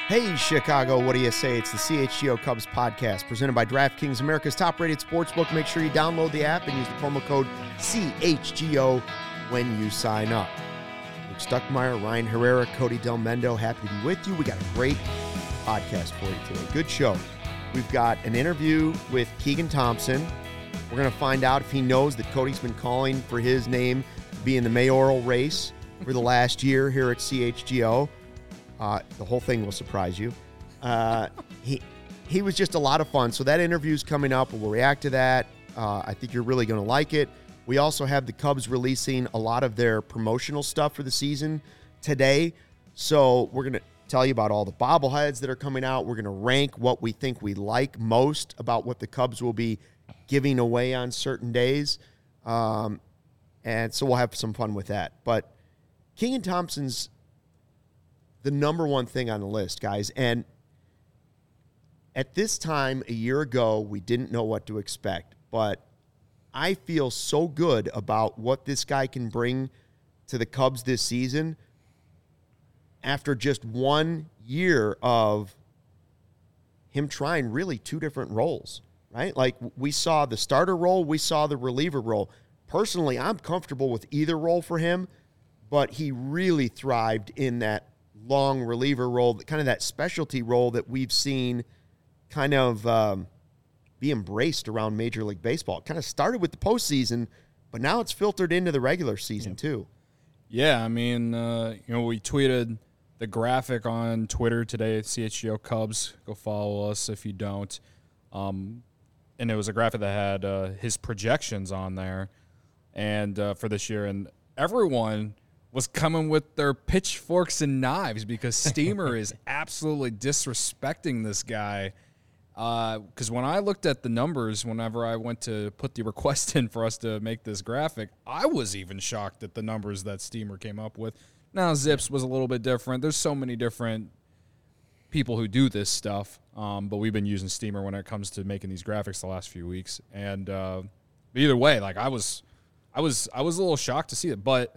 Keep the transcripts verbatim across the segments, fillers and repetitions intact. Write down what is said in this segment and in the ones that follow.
Hey, Chicago, what do you say? It's the C H G O Cubs podcast presented by DraftKings, America's top-rated sportsbook. Make sure you download the app and use the promo code C H G O when you sign up. Luke Stuckmeyer, Ryan Herrera, Cody Del Mendo, happy to be with you. We got a great podcast for you today. Good show. We've got an interview with Keegan Thompson. We're going to find out if he knows that Cody's been calling for his name to be in the mayoral race for the last year here at C H G O. Uh, the whole thing will surprise you. Uh, he he was just a lot of fun. So that interview's coming up. We'll react to that. Uh, I think you're really going to like it. We also have the Cubs releasing a lot of their promotional stuff for the season today. So we're going to tell you about all the bobbleheads that are coming out. We're going to rank what we think we like most about what the Cubs will be giving away on certain days. Um, and so we'll have some fun with that. But Keegan Thompson's the number one thing on the list, guys. And at this time a year ago, we didn't know what to expect. But I feel so good about what this guy can bring to the Cubs this season after just one year of him trying really two different roles, right? Like, we saw the starter role, we saw the reliever role. Personally, I'm comfortable with either role for him, but he really thrived in that long reliever role, kind of that specialty role that we've seen kind of um, be embraced around Major League Baseball. It kind of started with the postseason, but now it's filtered into the regular season yeah. too. Yeah, I mean, uh, you know, we tweeted the graphic on Twitter today at C H G O Cubs. Go follow us if you don't. Um, and it was a graphic that had uh, his projections on there and uh, for this year. And everyone was coming with their pitchforks and knives because Steamer is absolutely disrespecting this guy. Because uh, when I looked at the numbers, whenever I went to put the request in for us to make this graphic, I was even shocked at the numbers that Steamer came up with. Now, Zips was a little bit different. There's so many different people who do this stuff, um, but we've been using Steamer when it comes to making these graphics the last few weeks. And uh, either way, like I was, I was, I was a little shocked to see it, but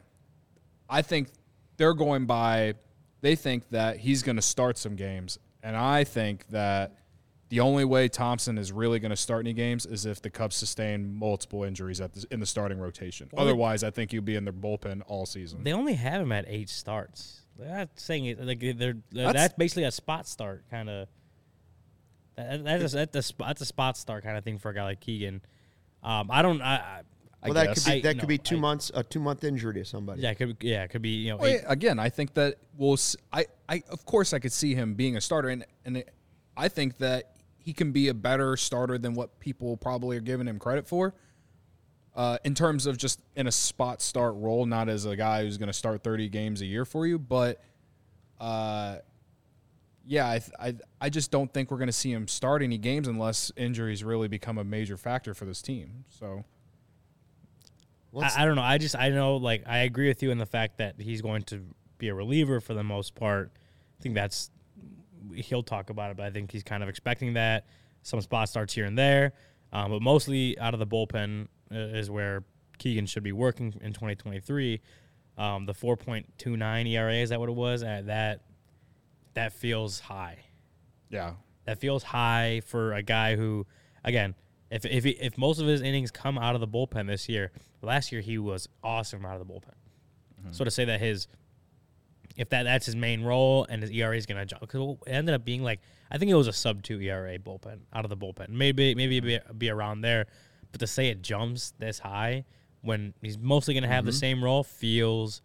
I think they're going by, they think that he's going to start some games. And I think that the only way Thompson is really going to start any games is if the Cubs sustain multiple injuries at the, in the starting rotation. Well, Otherwise, I think he'll be in their bullpen all season. They only have him at eight starts. They're not saying it, like they're, they're that's, that's basically a spot start kind of. That, that's, a, that's, a, that's a spot start kind of thing for a guy like Keegan. Um, I don't. I, I Well, that guess. could be that I, could no, be two I, months a two month injury to somebody. Yeah, it could yeah, it could be you know. Well, again, I think that we'll. I, I of course I could see him being a starter, and and it, I think that he can be a better starter than what people probably are giving him credit for. Uh, in terms of just in a spot start role, not as a guy who's going to start thirty games a year for you, but uh, yeah, I, I I just don't think we're going to see him start any games unless injuries really become a major factor for this team. So. I, I don't know. I just I know like I agree with you in the fact that he's going to be a reliever for the most part. I think that's he'll talk about it, but I think he's kind of expecting that. Some spot starts here and there, um, but mostly out of the bullpen is where Keegan should be working in twenty twenty-three. Um, the four point two nine E R A, is that what it was? Uh, that that feels high. Yeah, that feels high for a guy who, again. If if he, if most of his innings come out of the bullpen this year, last year he was awesome out of the bullpen. Mm-hmm. So to say that his, if that that's his main role and his E R A is going to jump, because it ended up being like, I think it was a sub two E R A bullpen out of the bullpen. Maybe maybe be, be around there, but to say it jumps this high when he's mostly going to have mm-hmm. the same role feels,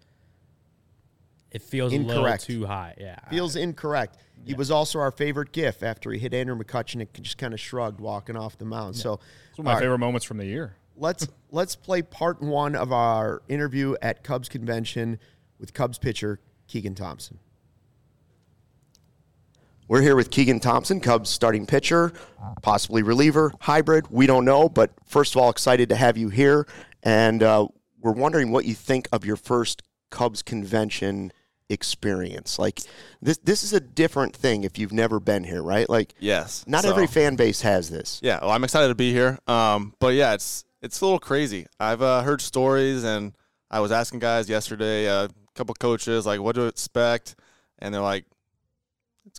it feels incorrect. a little too high. Yeah, feels incorrect. He yeah. was also our favorite GIF after he hit Andrew McCutchen and just kind of shrugged walking off the mound. Yeah. So it's one of my favorite moments from the year. Let's let's play part one of our interview at Cubs Convention with Cubs pitcher Keegan Thompson. We're here with Keegan Thompson, Cubs starting pitcher, possibly reliever, hybrid. We don't know, but first of all, excited to have you here. And uh, we're wondering what you think of your first Cubs convention experience. Like this this is a different thing if you've never been here, right? Like yes, not so, every fan base has this. Yeah, well, I'm excited to be here. Um, but yeah, it's it's a little crazy. I've uh, heard stories, and I was asking guys yesterday, uh, a couple coaches, like what to expect, and they're like, it's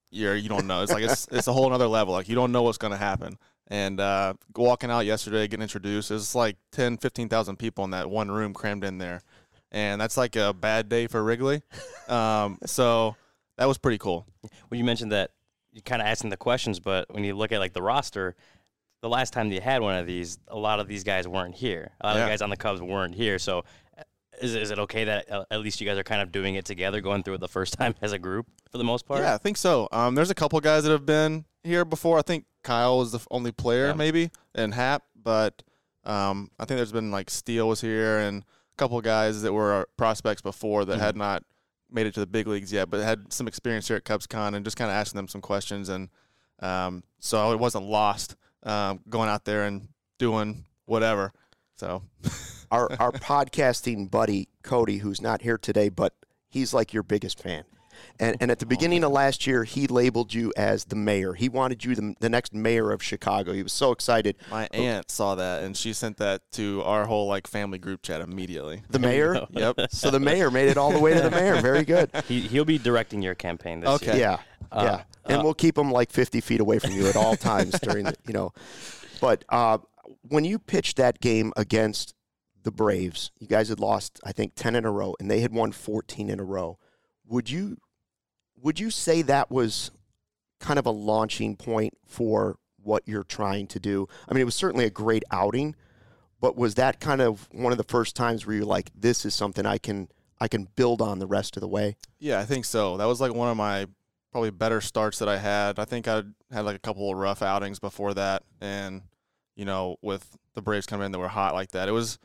you're you don't know. It's like it's it's a whole other level. Like you don't know what's gonna happen. And uh, walking out yesterday, getting introduced, it's like ten, fifteen thousand people in that one room crammed in there, and that's like a bad day for Wrigley. Um, so that was pretty cool. Well, you mentioned that you kind of asking the questions, but when you look at like the roster, the last time you had one of these, a lot of these guys weren't here. A lot Yeah. of the guys on the Cubs weren't here. So is, is it okay that uh, at least you guys are kind of doing it together, going through it the first time as a group for the most part? Yeah, I think so. Um, there's a couple guys that have been here before. I think Kyle was the f- only player Yeah. maybe, and Hap, but um, I think there's been like Steele was here and a couple guys that were prospects before that Mhm. had not made it to the big leagues yet, but had some experience here at CubsCon and just kind of asking them some questions. And um, so it wasn't lost um, going out there and doing whatever. So Our our podcasting buddy Cody, who's not here today, but he's like your biggest fan. And and at the beginning of last year, he labeled you as the mayor. He wanted you the, the next mayor of Chicago. He was so excited. my aunt saw that and she sent that to our whole like family group chat immediately. The mayor? Yep. So the mayor made it all the way to the mayor. Very good. He, he'll be directing your campaign this Okay. year. Yeah, Uh, yeah. And uh, we'll keep him like fifty feet away from you at all times during the, you know. But uh, when you pitched that game against the Braves, you guys had lost, I think, ten in a row, and they had won fourteen in a row. Would you would you say that was kind of a launching point for what you're trying to do? I mean, it was certainly a great outing, but was that kind of one of the first times where you're like, this is something I can I can build on the rest of the way? Yeah, I think so. That was like one of my probably better starts that I had. I think I had like a couple of rough outings before that, and you know, with the Braves coming in that were hot like that, it was.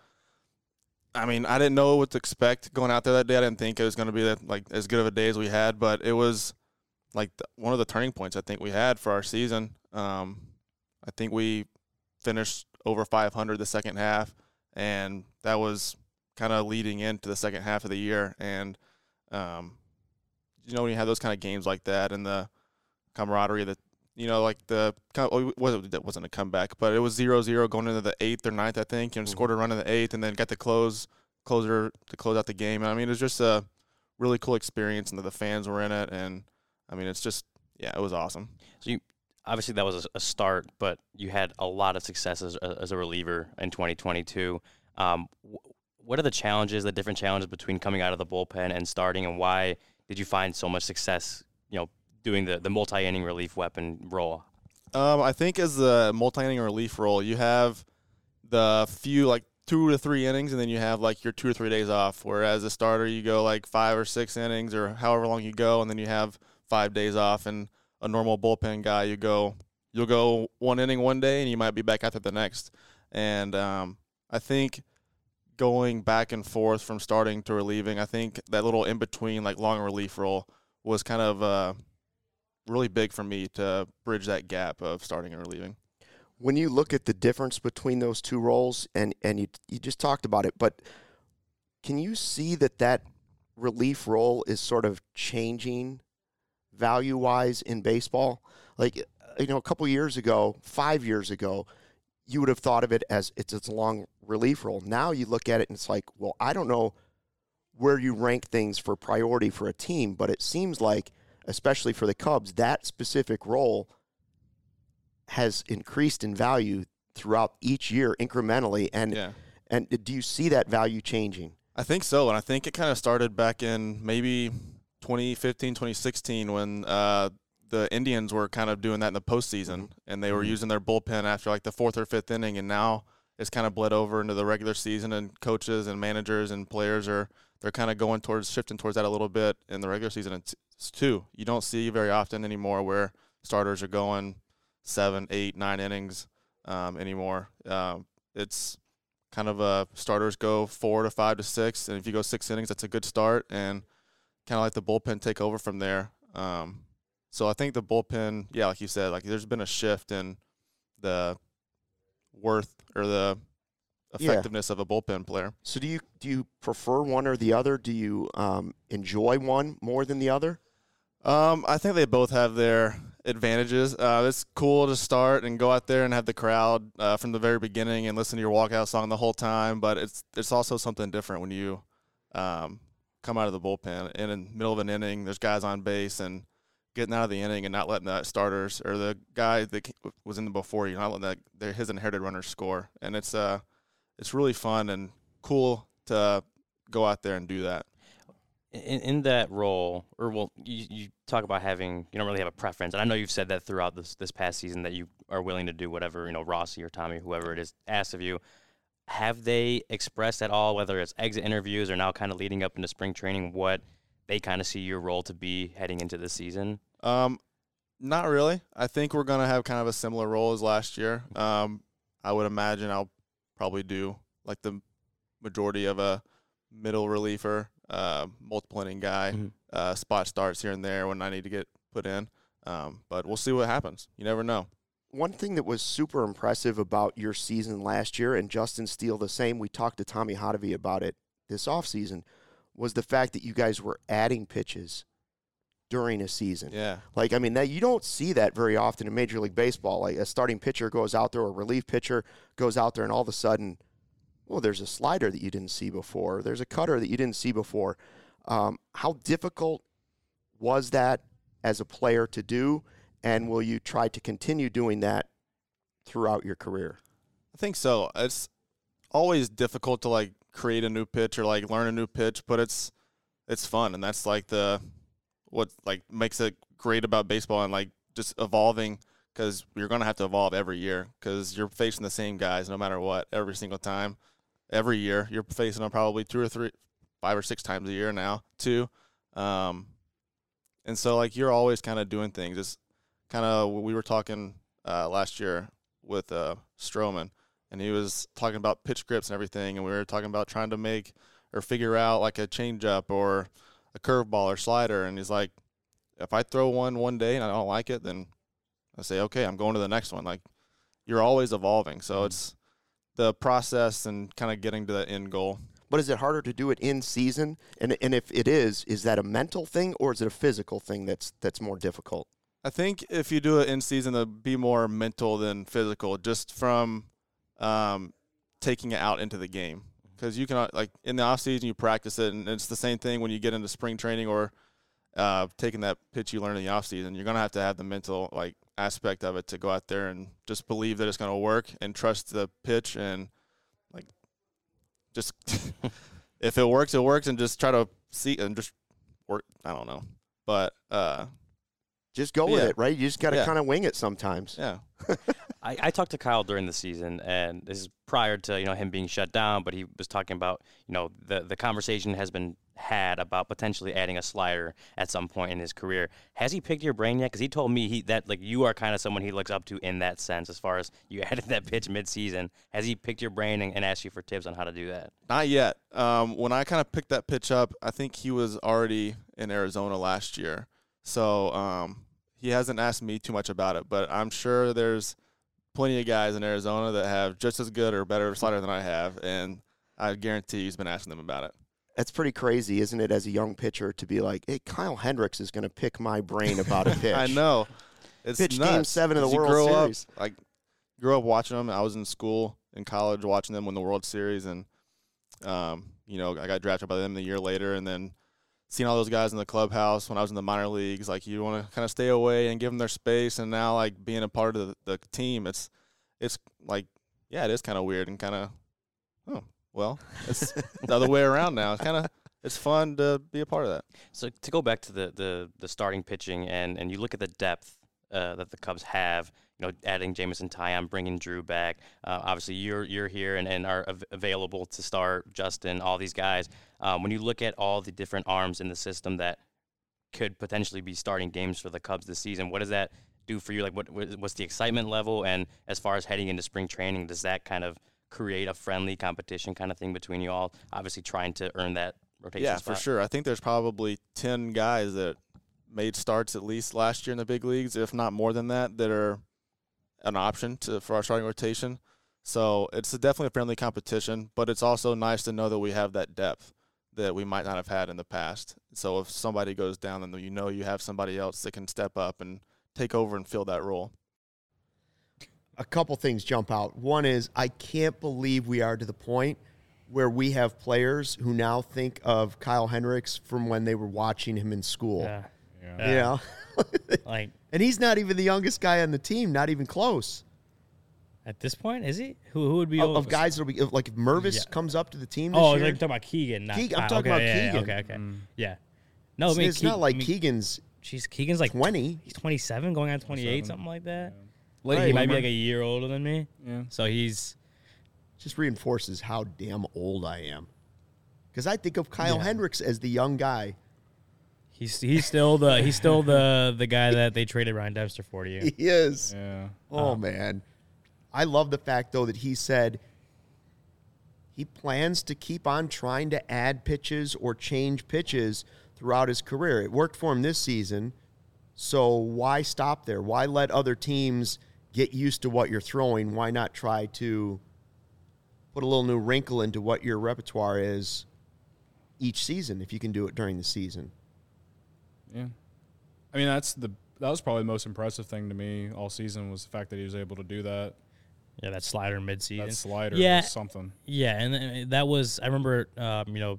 I mean, I didn't know what to expect going out there that day. I didn't think it was going to be that, like as good of a day as we had, but it was like the, one of the turning points I think we had for our season. Um, I think we finished over five hundred the second half, and that was kind of leading into the second half of the year. And um, you know, when you have those kind of games like that and the camaraderie that, you know, like the – wasn't that wasn't a comeback, but it was zero zero going into the eighth or ninth, I think, and Mhm. scored a run in the eighth and then got the close closer to close out the game. And, I mean, it was just a really cool experience, and the fans were in it. And, I mean, it's just – yeah, it was awesome. So you obviously that was a, a start, but you had a lot of success as, as a reliever in twenty twenty-two. Um, wh- what are the challenges, the different challenges between coming out of the bullpen and starting, and why did you find so much success, you know, doing the, the multi-inning relief weapon role? Um, I think as the multi-inning relief role, you have the few, like, two to three innings, and then you have, like, your two or three days off, whereas a starter, you go, like, five or six innings or however long you go, and then you have five days off. And a normal bullpen guy, you go, you'll go one inning one day, and you might be back after the next. And um, I think going back and forth from starting to relieving, I think that little in-between, like, long relief role was kind of uh, – really big for me to bridge that gap of starting and relieving. When you look at the difference between those two roles, and, and you you just talked about it, but can you see that that relief role is sort of changing value-wise in baseball? Like, you know, a couple years ago, five years ago, you would have thought of it as it's, it's a long relief role. Now you look at it and it's like, well, I don't know where you rank things for priority for a team, but it seems like, especially for the Cubs, that specific role has increased in value throughout each year incrementally. And Yeah. and do you see that value changing? I think so, and I think it kind of started back in maybe twenty fifteen, twenty sixteen when uh, the Indians were kind of doing that in the postseason, and they were Mhm. using their bullpen after like the fourth or fifth inning, and now it's kind of bled over into the regular season, and coaches and managers and players are they're kind of going towards shifting towards that a little bit in the regular season it's, it's too. You don't see very often anymore where starters are going seven, eight, nine innings um, anymore. Um, it's kind of a starters go four to five to six, and if you go six innings, that's a good start, and kind of let the bullpen take over from there. Um, so I think the bullpen, yeah, like you said, like there's been a shift in the worth or the Yeah. effectiveness of a bullpen player. So do you do you prefer one or the other? Do you um, enjoy one more than the other? Um, I think they both have their advantages. Uh, it's cool to start and go out there and have the crowd uh, from the very beginning and listen to your walkout song the whole time. But it's it's also something different when you um, come out of the bullpen and in the middle of an inning, there's guys on base and getting out of the inning and not letting that starters or the guy that was in the before you, not letting that his inherited runners score. And it's uh, it's really fun and cool to go out there and do that. In, in that role, or well, you, you talk about having, you don't really have a preference, and I know you've said that throughout this this past season that you are willing to do whatever, you know, Rossi or Tommy, whoever it is, asks of you. Have they expressed at all, whether it's exit interviews or now kind of leading up into spring training, what they kind of see your role to be heading into this season? Um, not really. I think we're going to have kind of a similar role as last year. Um, I would imagine I'll probably do like the majority of a middle reliever, uh, multiple inning guy, mm-hmm. uh, spot starts here and there when I need to get put in. Um, but we'll see what happens. You never know. One thing that was super impressive about your season last year, and Justin Steele the same, we talked to Tommy Hotovy about it this offseason, was the fact that you guys were adding pitches during a season. Yeah. Like, I mean, that you don't see that very often in Major League Baseball. Like, a starting pitcher goes out there, or a relief pitcher goes out there, and all of a sudden, well, there's a slider that you didn't see before. There's a cutter that you didn't see before. Um, how difficult was that as a player to do, and will you try to continue doing that throughout your career? I think so. It's always difficult to, like, create a new pitch or, like, learn a new pitch, but it's it's fun, and that's, like, the what, like, makes it great about baseball and, like, just evolving, because you're going to have to evolve every year because you're facing the same guys no matter what every single time. Every year you're facing them probably two or three, five or six times a year now, too. Um, and so, like, you're always kind of doing things. It's kind of – we were talking uh, last year with uh, Stroman, and he was talking about pitch grips and everything, and we were talking about trying to make or figure out, like, a changeup or a curveball or slider. And he's like, if I throw one one day and I don't like it, then I say, okay, I'm going to the next one. Like, you're always evolving. So mm-hmm. it's the process and kind of getting to the end goal. But is it harder to do it in season? And and if it is, is that a mental thing or is it a physical thing that's that's more difficult? I think if you do it in season, it'll be more mental than physical, just from um, taking it out into the game. Because you can, like, in the off season, you practice it, and it's the same thing when you get into spring training or uh, taking that pitch you learn in the off season. You're gonna have to have the mental, like, aspect of it to go out there and just believe that it's going to work and trust the pitch and, like, just if it works, it works, and just try to see and just work. I don't know, but uh, just go with yeah. it, right? You just got to yeah. kind of wing it sometimes. Yeah. I, I talked to Kyle during the season, and this is prior to, you know, him being shut down, but he was talking about, you know, the the conversation has been had about potentially adding a slider at some point in his career. Has he picked your brain yet? Because he told me he that, like, you are kind of someone he looks up to in that sense, as far as you added that pitch mid-season. Has he picked your brain and, and asked you for tips on how to do that? Not yet. Um, when I kind of picked that pitch up, I think he was already in Arizona last year. So um, he hasn't asked me too much about it, but I'm sure there's plenty of guys in Arizona that have just as good or better slider than I have, and I guarantee he's been asking them about it. That's pretty crazy, isn't it, as a young pitcher, to be like, hey, Kyle Hendricks is going to pick my brain about a pitch. I know. It's pitch nuts. game seven of the You World grow Series. Up, like, grew up watching them. I was in school, in college, watching them win the World Series, and, um, you know, I got drafted by them a year later, and then seeing all those guys in the clubhouse when I was in the minor leagues, like, you want to kind of stay away and give them their space, and now, like, being a part of the, the team, it's, it's like, yeah, it is kind of weird and kind of, oh, well, it's the other way around now. It's kind of, it's fun to be a part of that. So to go back to the the, the starting pitching, and, and you look at the depth uh, that the Cubs have, you know, adding Jameson Taillon, bringing Drew back. Uh, obviously, you're you're here and, and are av- available to start. Justin, all these guys. Um, when you look at all the different arms in the system that could potentially be starting games for the Cubs this season, what does that do for you? Like, what what's the excitement level? And as far as heading into spring training, does that kind of create a friendly competition kind of thing between you all, obviously trying to earn that rotation Yeah, spot? for sure. I think there's probably ten guys that made starts at least last year in the big leagues, if not more than that, that are an option to for our starting rotation. So it's definitely a friendly competition, but it's also nice to know that we have that depth that we might not have had in the past. So if somebody goes down, then you know you have somebody else that can step up and take over and fill that role. A couple things jump out. One is I can't believe we are to the point where we have players who now think of Kyle Hendricks from when they were watching him in school. Yeah. Yeah. You know, Like, and he's not even the youngest guy on the team, not even close. at this point, is he? Who who would be Of, old? of guys that'll be like if Mervis Yeah. comes up to the team this Oh, year. like you're talking about Keegan. Not, Keegan, I'm ah, talking okay, about yeah, yeah, Keegan. Okay, okay, Mm. yeah. No, it's I mean, it's not Keeg- like I mean, Keegan's She's Keegan's like twenty. He's twenty-seven, going on twenty-eight, twenty-seven. something like that. Late He might be bloomer. like a year older than me. Yeah. So he's Just reinforces how damn old I am. Because I think of Kyle Yeah. Hendricks as the young guy. he's he's still the he's still the the guy that they traded Ryan Dempster for to you. He is. Yeah. Oh, man. I love the fact, though, that he said he plans to keep on trying to add pitches or change pitches throughout his career. It worked for him this season, so why stop there? Why let other teams get used to what you're throwing? Why not try to put a little new wrinkle into what your repertoire is each season if you can do it during the season? Yeah. I mean, that's the that was probably the most impressive thing to me all season was the fact that he was able to do that. Yeah, that slider midseason. That slider Yeah. was something. Yeah, and then that was I remember um, you know,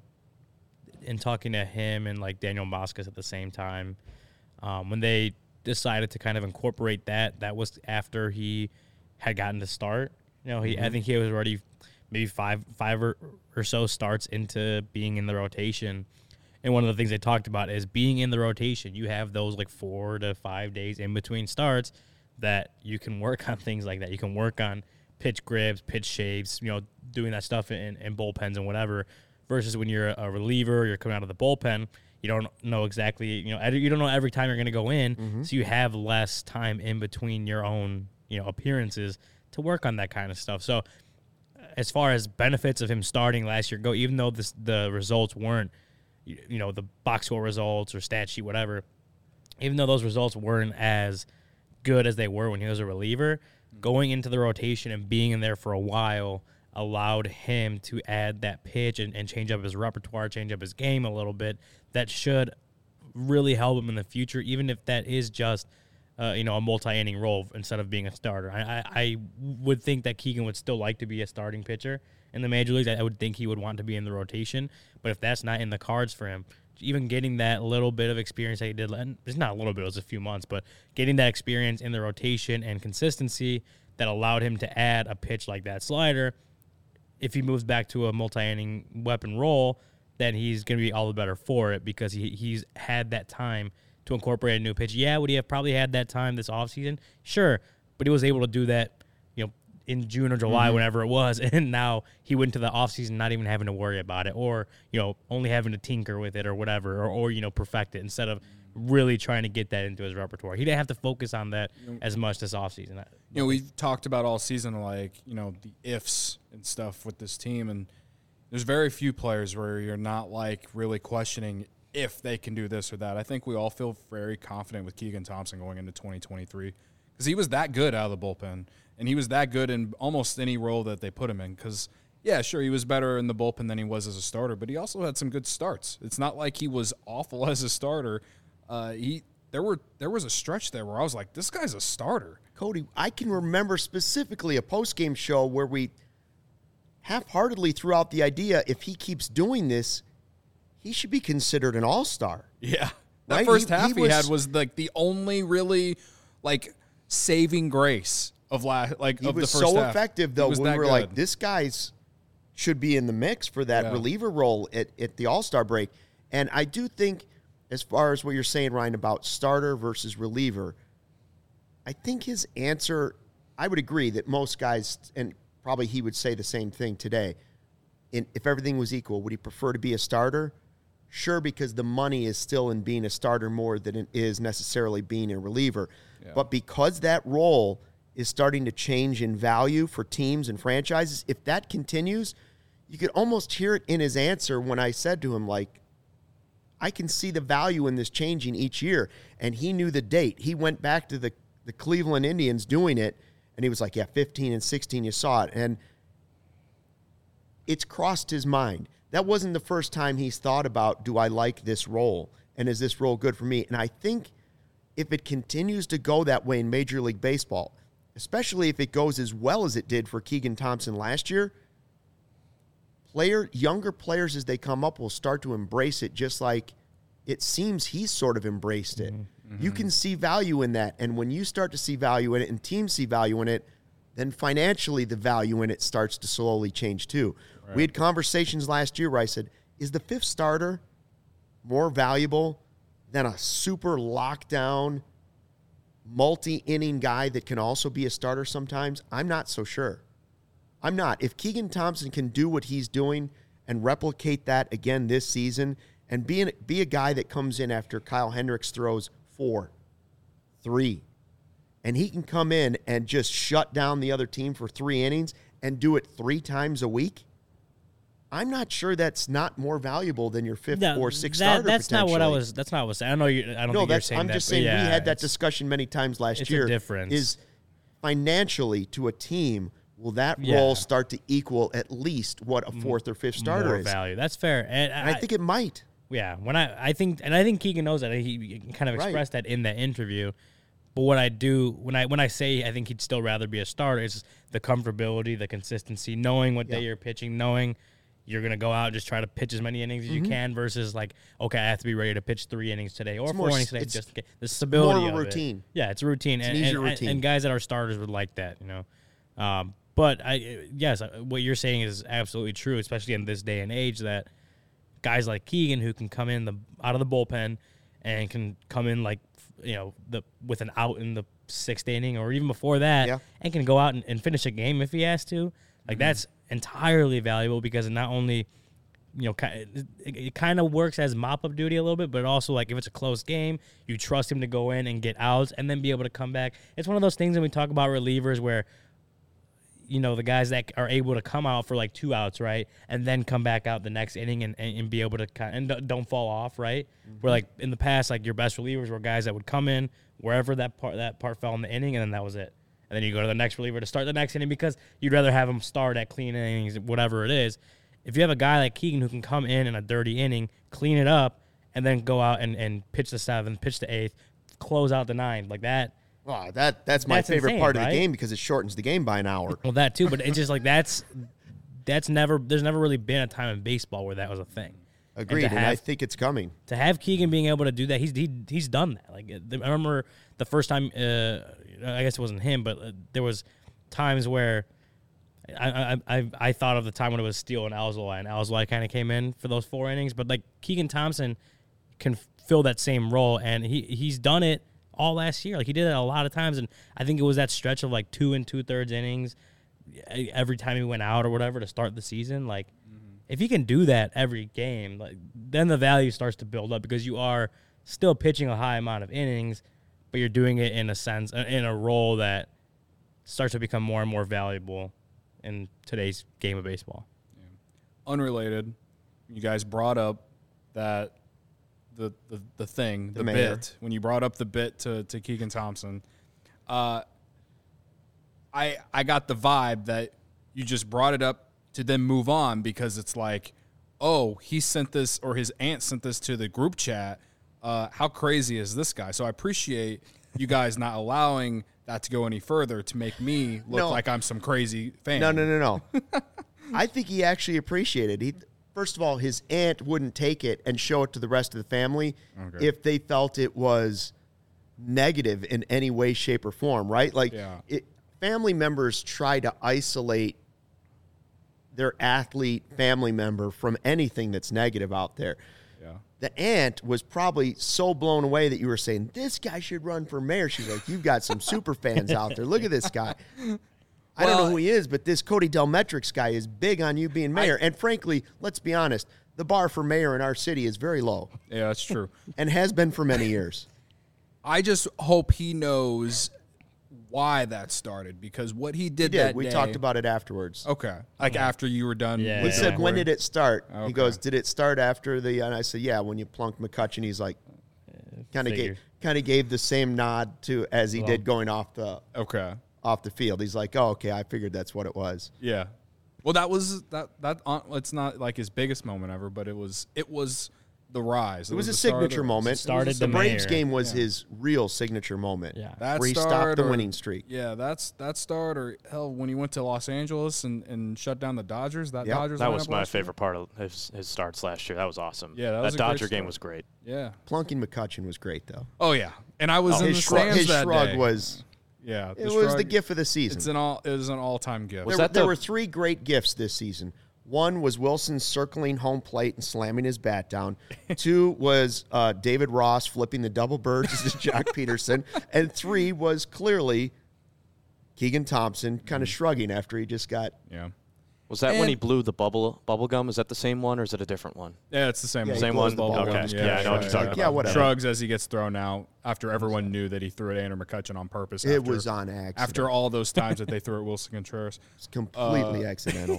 in talking to him and like Daniel Moscas at the same time, um, when they decided to kind of incorporate that, that was after he had gotten to start. You know, he I think he was already maybe five five or, or so starts into being in the rotation. And one of the things they talked about is being in the rotation. You have those like four to five days in between starts that you can work on things like that. You can work on pitch grips, pitch shapes, you know, doing that stuff in, in bullpens and whatever. Versus when you're a reliever, you're coming out of the bullpen, you don't know exactly, you know, you don't know every time you're going to go in. Mm-hmm. So you have less time in between your own, you know, appearances to work on that kind of stuff. So as far as benefits of him starting last year go, even though this, the results weren't, you, you know, the box score results or stat sheet, whatever, even though those results weren't as good as they were when he was a reliever, going into the rotation and being in there for a while allowed him to add that pitch and, and change up his repertoire, change up his game a little bit. That should really help him in the future, even if that is just, uh, you know, a multi-inning role instead of being a starter. I, I, I would think that Keegan would still like to be a starting pitcher in the major leagues. I would think he would want to be in the rotation, but if that's not in the cards for him, even getting that little bit of experience that he did, and it's not a little bit, it was a few months, but getting that experience in the rotation and consistency that allowed him to add a pitch like that slider, if he moves back to a multi-inning weapon role, then he's going to be all the better for it because he he's had that time to incorporate a new pitch. Yeah, would he have probably had that time this offseason? Sure, but he was able to do that, you know, in June or July, mm-hmm. whenever it was, and now he went to the offseason not even having to worry about it or, you know, only having to tinker with it or whatever or, or you know, perfect it instead of really trying to get that into his repertoire. He didn't have to focus on that as much this offseason. You know, we've talked about all season, like, you know, the ifs and stuff with this team, and there's very few players where you're not, like, really questioning if they can do this or that. I think we all feel very confident with Keegan Thompson going into twenty twenty-three because he was that good out of the bullpen, and he was that good in almost any role that they put him in because, yeah, sure, he was better in the bullpen than he was as a starter, but he also had some good starts. It's not like he was awful as a starter. Uh, he there were there was a stretch there where I was like, this guy's a starter. Cody, I can remember specifically a post-game show where we half-heartedly threw out the idea if he keeps doing this, he should be considered an all-star. Yeah. That Right? first He- half he he, was- had was like the only really like saving grace of la- like He of was the first so half. effective, He though. was We that were like, good. this guy's should be in the mix for that Yeah. reliever role at, at the all-star break. And I do think, as far as what you're saying, Ryan, about starter versus reliever, I think his answer, I would agree that most guys, and probably he would say the same thing today, in, if everything was equal, would he prefer to be a starter? Sure, because the money is still in being a starter more than it is necessarily being a reliever. Yeah. But because that role is starting to change in value for teams and franchises, if that continues, you could almost hear it in his answer when I said to him, like, I can see the value in this changing each year. And he knew the date. He went back to the, the Cleveland Indians doing it, and he was like, yeah, fifteen and sixteen, you saw it. And it's crossed his mind. That wasn't the first time he's thought about, do I like this role? And is this role good for me? And I think if it continues to go that way in Major League Baseball, especially if it goes as well as it did for Keegan Thompson last year, player, younger players as they come up will start to embrace it just like it seems he's sort of embraced it. Mm-hmm. You can see value in that. And when you start to see value in it and teams see value in it, then financially the value in it starts to slowly change too. Right. We had conversations last year where I said, is the fifth starter more valuable than a super lockdown, multi-inning guy that can also be a starter sometimes? I'm not so sure. I'm not. If Keegan Thompson can do what he's doing and replicate that again this season and be, an, be a guy that comes in after Kyle Hendricks throws four, three, and he can come in and just shut down the other team for three innings and do it three times a week, I'm not sure that's not more valuable than your fifth No, or sixth that, starter. That's not what I potentially. was. That's not what I was saying. I know you. I don't No, think you're that's, saying I'm that. just but saying yeah, we had that it's- discussion many times last it's a year. difference. Is financially to a team, will that Yeah. role start to equal at least what a fourth or fifth starter more is? value. That's fair, and, And I think it might. Yeah, when I I think and I think Keegan knows that he kind of Right. expressed that in that interview. But what I do when I when I say I think he'd still rather be a starter is the comfortability, the consistency, knowing what Yeah. day you're pitching, knowing you're gonna go out and just try to pitch as many innings as you can versus like, okay, I have to be ready to pitch three innings today or Mm-hmm. It's four more innings s- today. it's Just to get the stability more of a of it. routine. Yeah, it's a routine, It's an and, easier and, routine. and guys that are starters would like that, you know. Um, but I yes, what you're saying is absolutely true, especially in this day and age that guys like Keegan who can come in the out of the bullpen and can come in like you know the with an out in the sixth inning or even before that Yeah. and can go out and, and finish a game if he has to. Like that's entirely valuable because it not only you know ki- it, it kind of works as mop up duty a little bit, but also like if it's a close game, you trust him to go in and get outs and then be able to come back. It's one of those things when we talk about relievers where you know, the guys that are able to come out for like two outs, right, and then come back out the next inning and, and, and be able to kind and don't- don't fall off, right? Mm-hmm. Where like in the past, like your best relievers were guys that would come in wherever that part that part fell in the inning, and then that was it. And then you go to the next reliever to start the next inning because you'd rather have them start at clean innings, whatever it is. If you have a guy like Keegan who can come in in a dirty inning, clean it up, and then go out and, and pitch the seventh, pitch the eighth, close out the ninth, like that. Wow, that that's my That's favorite insane, part of right? the game because it shortens the game by an hour. Well, that too, but it's just like that's that's never there's never really been a time in baseball where that was a thing. Agreed, to and, I have- think it's coming. To have Keegan being able to do that, he's he, he's done that. Like I remember the first time, uh, I guess it wasn't him, but uh, there was times where I, I I I thought of the time when it was Steele and Alzolay, and Alzolay kind of came in for those four innings, but like Keegan Thompson can fill that same role, and he he's done it all last year. Like he did it a lot of times, and I think it was that stretch of like two and two thirds innings every time he went out or whatever to start the season. Like mm-hmm. if he can do that every game, like then the value starts to build up because you are still pitching a high amount of innings, but you're doing it in a sense in a role that starts to become more and more valuable in today's game of baseball. Yeah. Unrelated, you guys brought up that. The, the the thing, the, The mayor. bit, when you brought up the bit to, to Keegan Thompson, uh, I I got the vibe that you just brought it up to then move on because it's like, oh, he sent this or his aunt sent this to the group chat. Uh, how crazy is this guy? So I appreciate you guys not allowing that to go any further to make me look No. like I'm some crazy fan. No, no, no, no. I think he actually appreciated it. He, first of all, his aunt wouldn't take it and show it to the rest of the family Okay. if they felt it was negative in any way, shape, or form, right? Like, Yeah. it, family members try to isolate their athlete family member from anything that's negative out there. Yeah. The aunt was probably so blown away that you were saying, this guy should run for mayor. She's like, you've got some super fans out there. Look at this guy. I don't know Well- who he is, but this Cody Delmetrics guy is big on you being mayor. and frankly, let's be honest, the bar for mayor in our city is very low Yeah, that's true. and has been for many years. I just hope he knows why that started because what he He did, did. that We day- talked about it afterwards. Okay, like after you were done. Yeah. He with the said, when recording? did it start? Okay. He goes, did it start after the, and I said, yeah, when you plunked McCutcheon. He's like, kind of figured. gave, kind of gave the same nod to as he Well- did going off the Okay. off the field. He's like, oh, okay, I figured that's what it was. Yeah. Well, that was that that. Uh, it's not like his biggest moment ever, but it was it was the rise. It was a the start of signature the- moment. started the the Braves mayor. game was Yeah. his real signature moment. Yeah. That where he start stopped the or- winning streak. Yeah, that's that start or hell when he went to Los Angeles and, and shut down the Dodgers. That Yep. Dodgers That lineup was my last year? favorite part of his, his starts last year. That was awesome. Yeah, that was a great Dodger game start. was great. Yeah. Plunking McCutcheon was great, though. Oh yeah, And I was Oh, in his the shrug, stands his that shrug day. was yeah, it was the gift of the season. It's an all it was an all time gift. There, that there the- were three great gifts this season. One was Wilson circling home plate and slamming his bat down. Two was uh, David Ross flipping the double birds as Jock Peterson. And three was clearly Keegan Thompson kind of shrugging after he just got. Yeah. Was that when And- he blew the bubble bubble gum? Is that the same one or is it a different one? Yeah, it's the same Yeah, one. he Same blows one? the bubble Okay. gum. Yeah, I know what you're talking about. Yeah, whatever. Shrugs as he gets thrown out after everyone knew that he threw it at Andrew McCutcheon on purpose. It after, was on accident. after all those times that they threw at Wilson Contreras. It's completely Uh, accidental.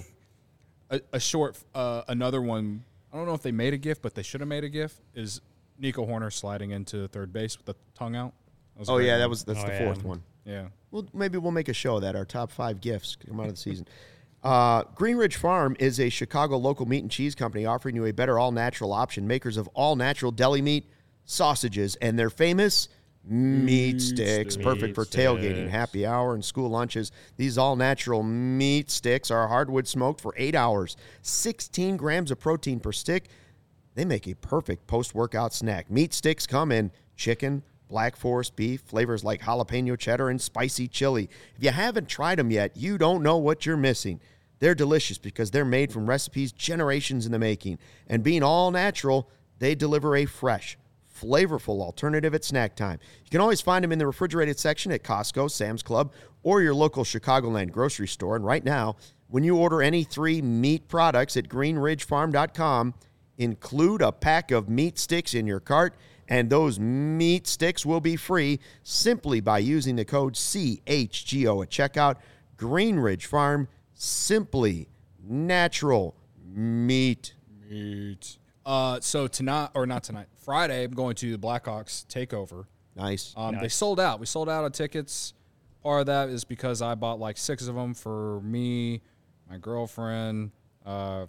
A, a short, uh, another one. I don't know if they made a gif, but they should have made a gif. Is Nico Horner sliding into third base with the tongue out? That was a Oh, great yeah, one. that was that's Oh, the yeah. fourth one. yeah. Well, maybe we'll make a show of that, our top five gifts come out of the season. Uh, Green Ridge Farm is a Chicago local meat and cheese company offering you a better all-natural option. Makers of all-natural deli meat, sausages, and their famous meat sticks, sticks. perfect for Meat tailgating, sticks. happy hour, and school lunches. These all-natural meat sticks are hardwood smoked for eight hours, sixteen grams of protein per stick. They make a perfect post-workout snack. Meat sticks come in chicken, Black Forest beef, flavors like jalapeno cheddar and spicy chili. If you haven't tried them yet, you don't know what you're missing. They're delicious because they're made from recipes generations in the making. And being all natural, they deliver a fresh, flavorful alternative at snack time. You can always find them in the refrigerated section at Costco, Sam's Club, or your local Chicagoland grocery store. And right now, when you order any three meat products at green ridge farm dot com, include a pack of meat sticks in your cart, and those meat sticks will be free simply by using the code C H G O at checkout. Green Ridge Farm, simply natural meat. Meat. Uh, so tonight, or not tonight, Friday, I'm going to the Blackhawks takeover. Nice. Um, They Nice. sold out. We sold out of tickets. Part of that is because I bought like six of them for me, my girlfriend, uh,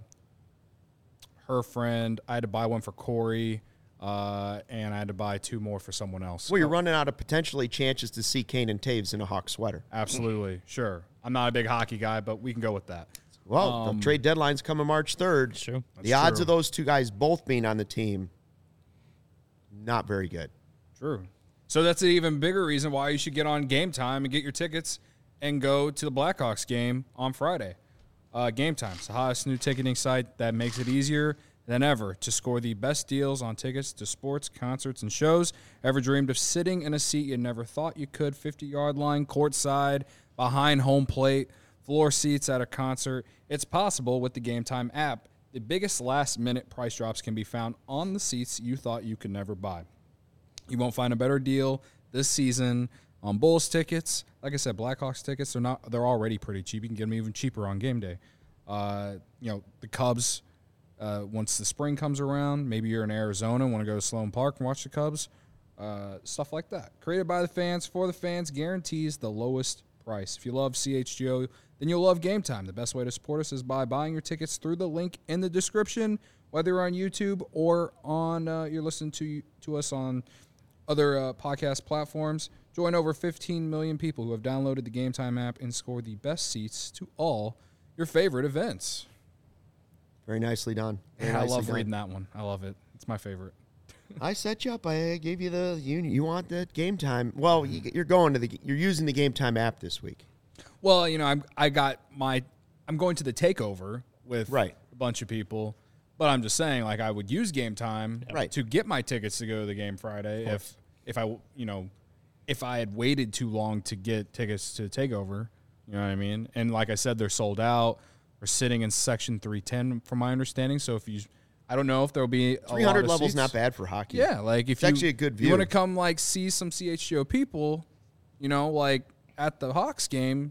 her friend. I had to buy one for Corey, uh, and I had to buy two more for someone else. Well, you're running out of potentially chances to see Kane and Taves in a Hawk sweater. Absolutely, sure. I'm not a big hockey guy, but we can go with that. Well, the trade deadline's coming March third. True. The That's odds true. of those two guys both being on the team, not very good. True. So that's an even bigger reason why you should get on Game Time and get your tickets and go to the Blackhawks game on Friday. Uh, Game Time's the hottest new ticketing site that makes it easier than ever to score the best deals on tickets to sports, concerts, and shows. Ever dreamed of sitting in a seat you never thought you could? fifty-yard line, courtside, behind home plate, floor seats at a concert. It's possible with the Game Time app. The biggest last-minute price drops can be found on the seats you thought you could never buy. You won't find a better deal this season on Bulls tickets. Like I said, Blackhawks tickets, they're not they're already pretty cheap. You can get them even cheaper on game day. Uh, you know, the Cubs, uh, once the spring comes around, maybe you're in Arizona and want to go to Sloan Park and watch the Cubs. Uh, stuff like that. Created by the fans, for the fans, guarantees the lowest price. If you love C H G O, then you'll love Game Time. The best way to support us is by buying your tickets through the link in the description, whether you're on YouTube or on uh, you're listening to to us on other uh, podcast platforms. Join over fifteen million people who have downloaded the Game Time app and score the best seats to all your favorite events. Very nicely done. Very I nicely love done. reading that one. I love it. It's my favorite. I set you up. I gave you the you. You want that Game Time? Well, you, you're going to the. You're using the Game Time app this week. Well, you know, I'm I got my I'm going to the takeover with Right. a bunch of people, but I'm just saying, like, I would use Game Time Right. to get my tickets to go to the game Friday if if I you know if I had waited too long to get tickets to the takeover. You know what I mean? And like I said, they're sold out. We're sitting in section three ten, from my understanding. So if you, I don't know if there'll be a three hundred lot of levels seats. not bad for hockey. Yeah, like if It's you actually a good you want to view. come like see some C H G O people, you know, like at the Hawks game,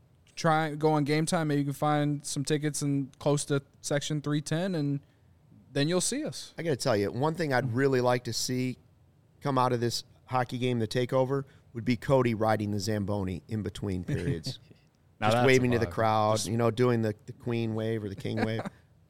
try go on Game Time. Maybe you can find some tickets in close to section three ten, and then you'll see us. I got to tell you, one thing I'd really like to see come out of this hockey game, the takeover, would be Cody riding the Zamboni in between periods. Now Just that's a waving to the vibe. crowd, Just- you know, doing the, the queen wave or the king wave.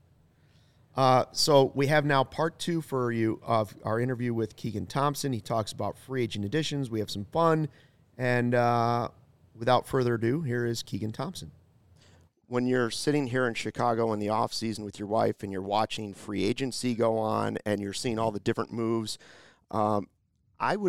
Uh, so we have now part two for you of our interview with Keegan Thompson. He talks about free agent additions. We have some fun. And uh, without further ado, here is Keegan Thompson. When you're sitting here in Chicago in the off season with your wife and you're watching free agency go on and you're seeing all the different moves, um, I would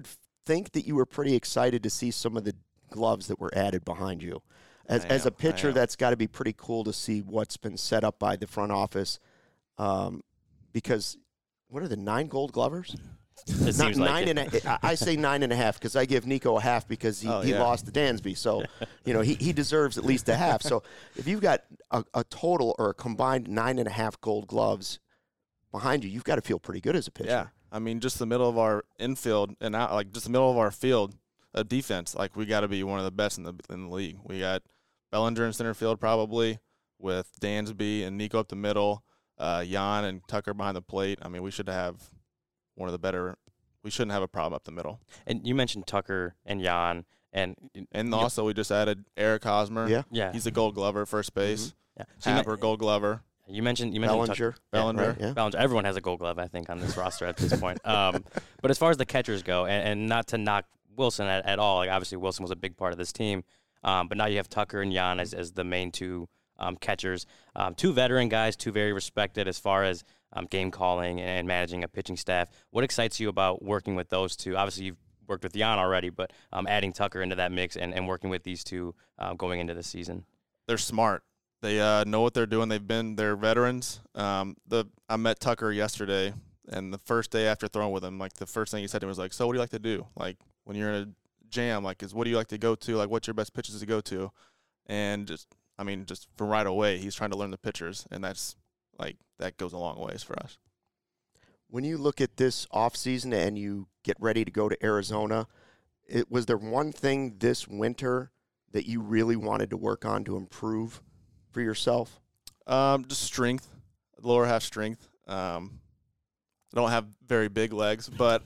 think that you were pretty excited to see some of the gloves that were added behind you? As, I as a am, I pitcher, am. that's got to be pretty cool to see what's been set up by the front office. Um, because what are the nine Gold Glovers? It Not seems like nine it. and a, I I say nine and a half because I give Nico a half because he, Oh, he yeah. lost to Dansby. So, you know, he, he deserves at least a half. So if you've got a, a total or a combined nine and a half Gold Gloves behind you, you've got to feel pretty good as a pitcher. Yeah, I mean, just the middle of our infield and out, like just the middle of our field of defense, like we got to be one of the best in the in the league. We got Bellinger in center field probably with Dansby and Nico up the middle, uh, Jan and Tucker behind the plate. I mean, we should have one of the better. We shouldn't have a problem up the middle. And you mentioned Tucker and Jan, and And you- also, we just added Eric Hosmer. Yeah. yeah, He's a Gold Glover at first base. yeah. So you, Happer, Gold Glover. men- you mentioned you mentioned Tucker. Bellinger. Bellinger. Right, yeah. Bellinger. Everyone has a Gold Glove, I think, on this roster at this point. Um, but as far as the catchers go, and, and not to knock Wilson at, at all, like obviously Wilson was a big part of this team, um, but now you have Tucker and Jan as, as the main two um, catchers, um, two veteran guys, two very respected as far as um, game calling and managing a pitching staff. What excites you about working with those two? Obviously, you've worked with Jan already, but um, adding Tucker into that mix and, and working with these two uh, going into the season. They're smart. They uh, know what they're doing. They've been they're veterans. Um, the I met Tucker yesterday, and the first day after throwing with him, like the first thing he said to me was like, "So what do you like to do? Like when you're in a jam, like is what do you like to go to? Like what's your best pitches to go to?" And just I mean, just from right away, he's trying to learn the pitchers, and that's like that goes a long ways for us. When you look at this offseason and you get ready to go to Arizona, it, was there one thing this winter that you really wanted to work on to improve for yourself? Um, just strength, lower half strength. Um, I don't have very big legs, but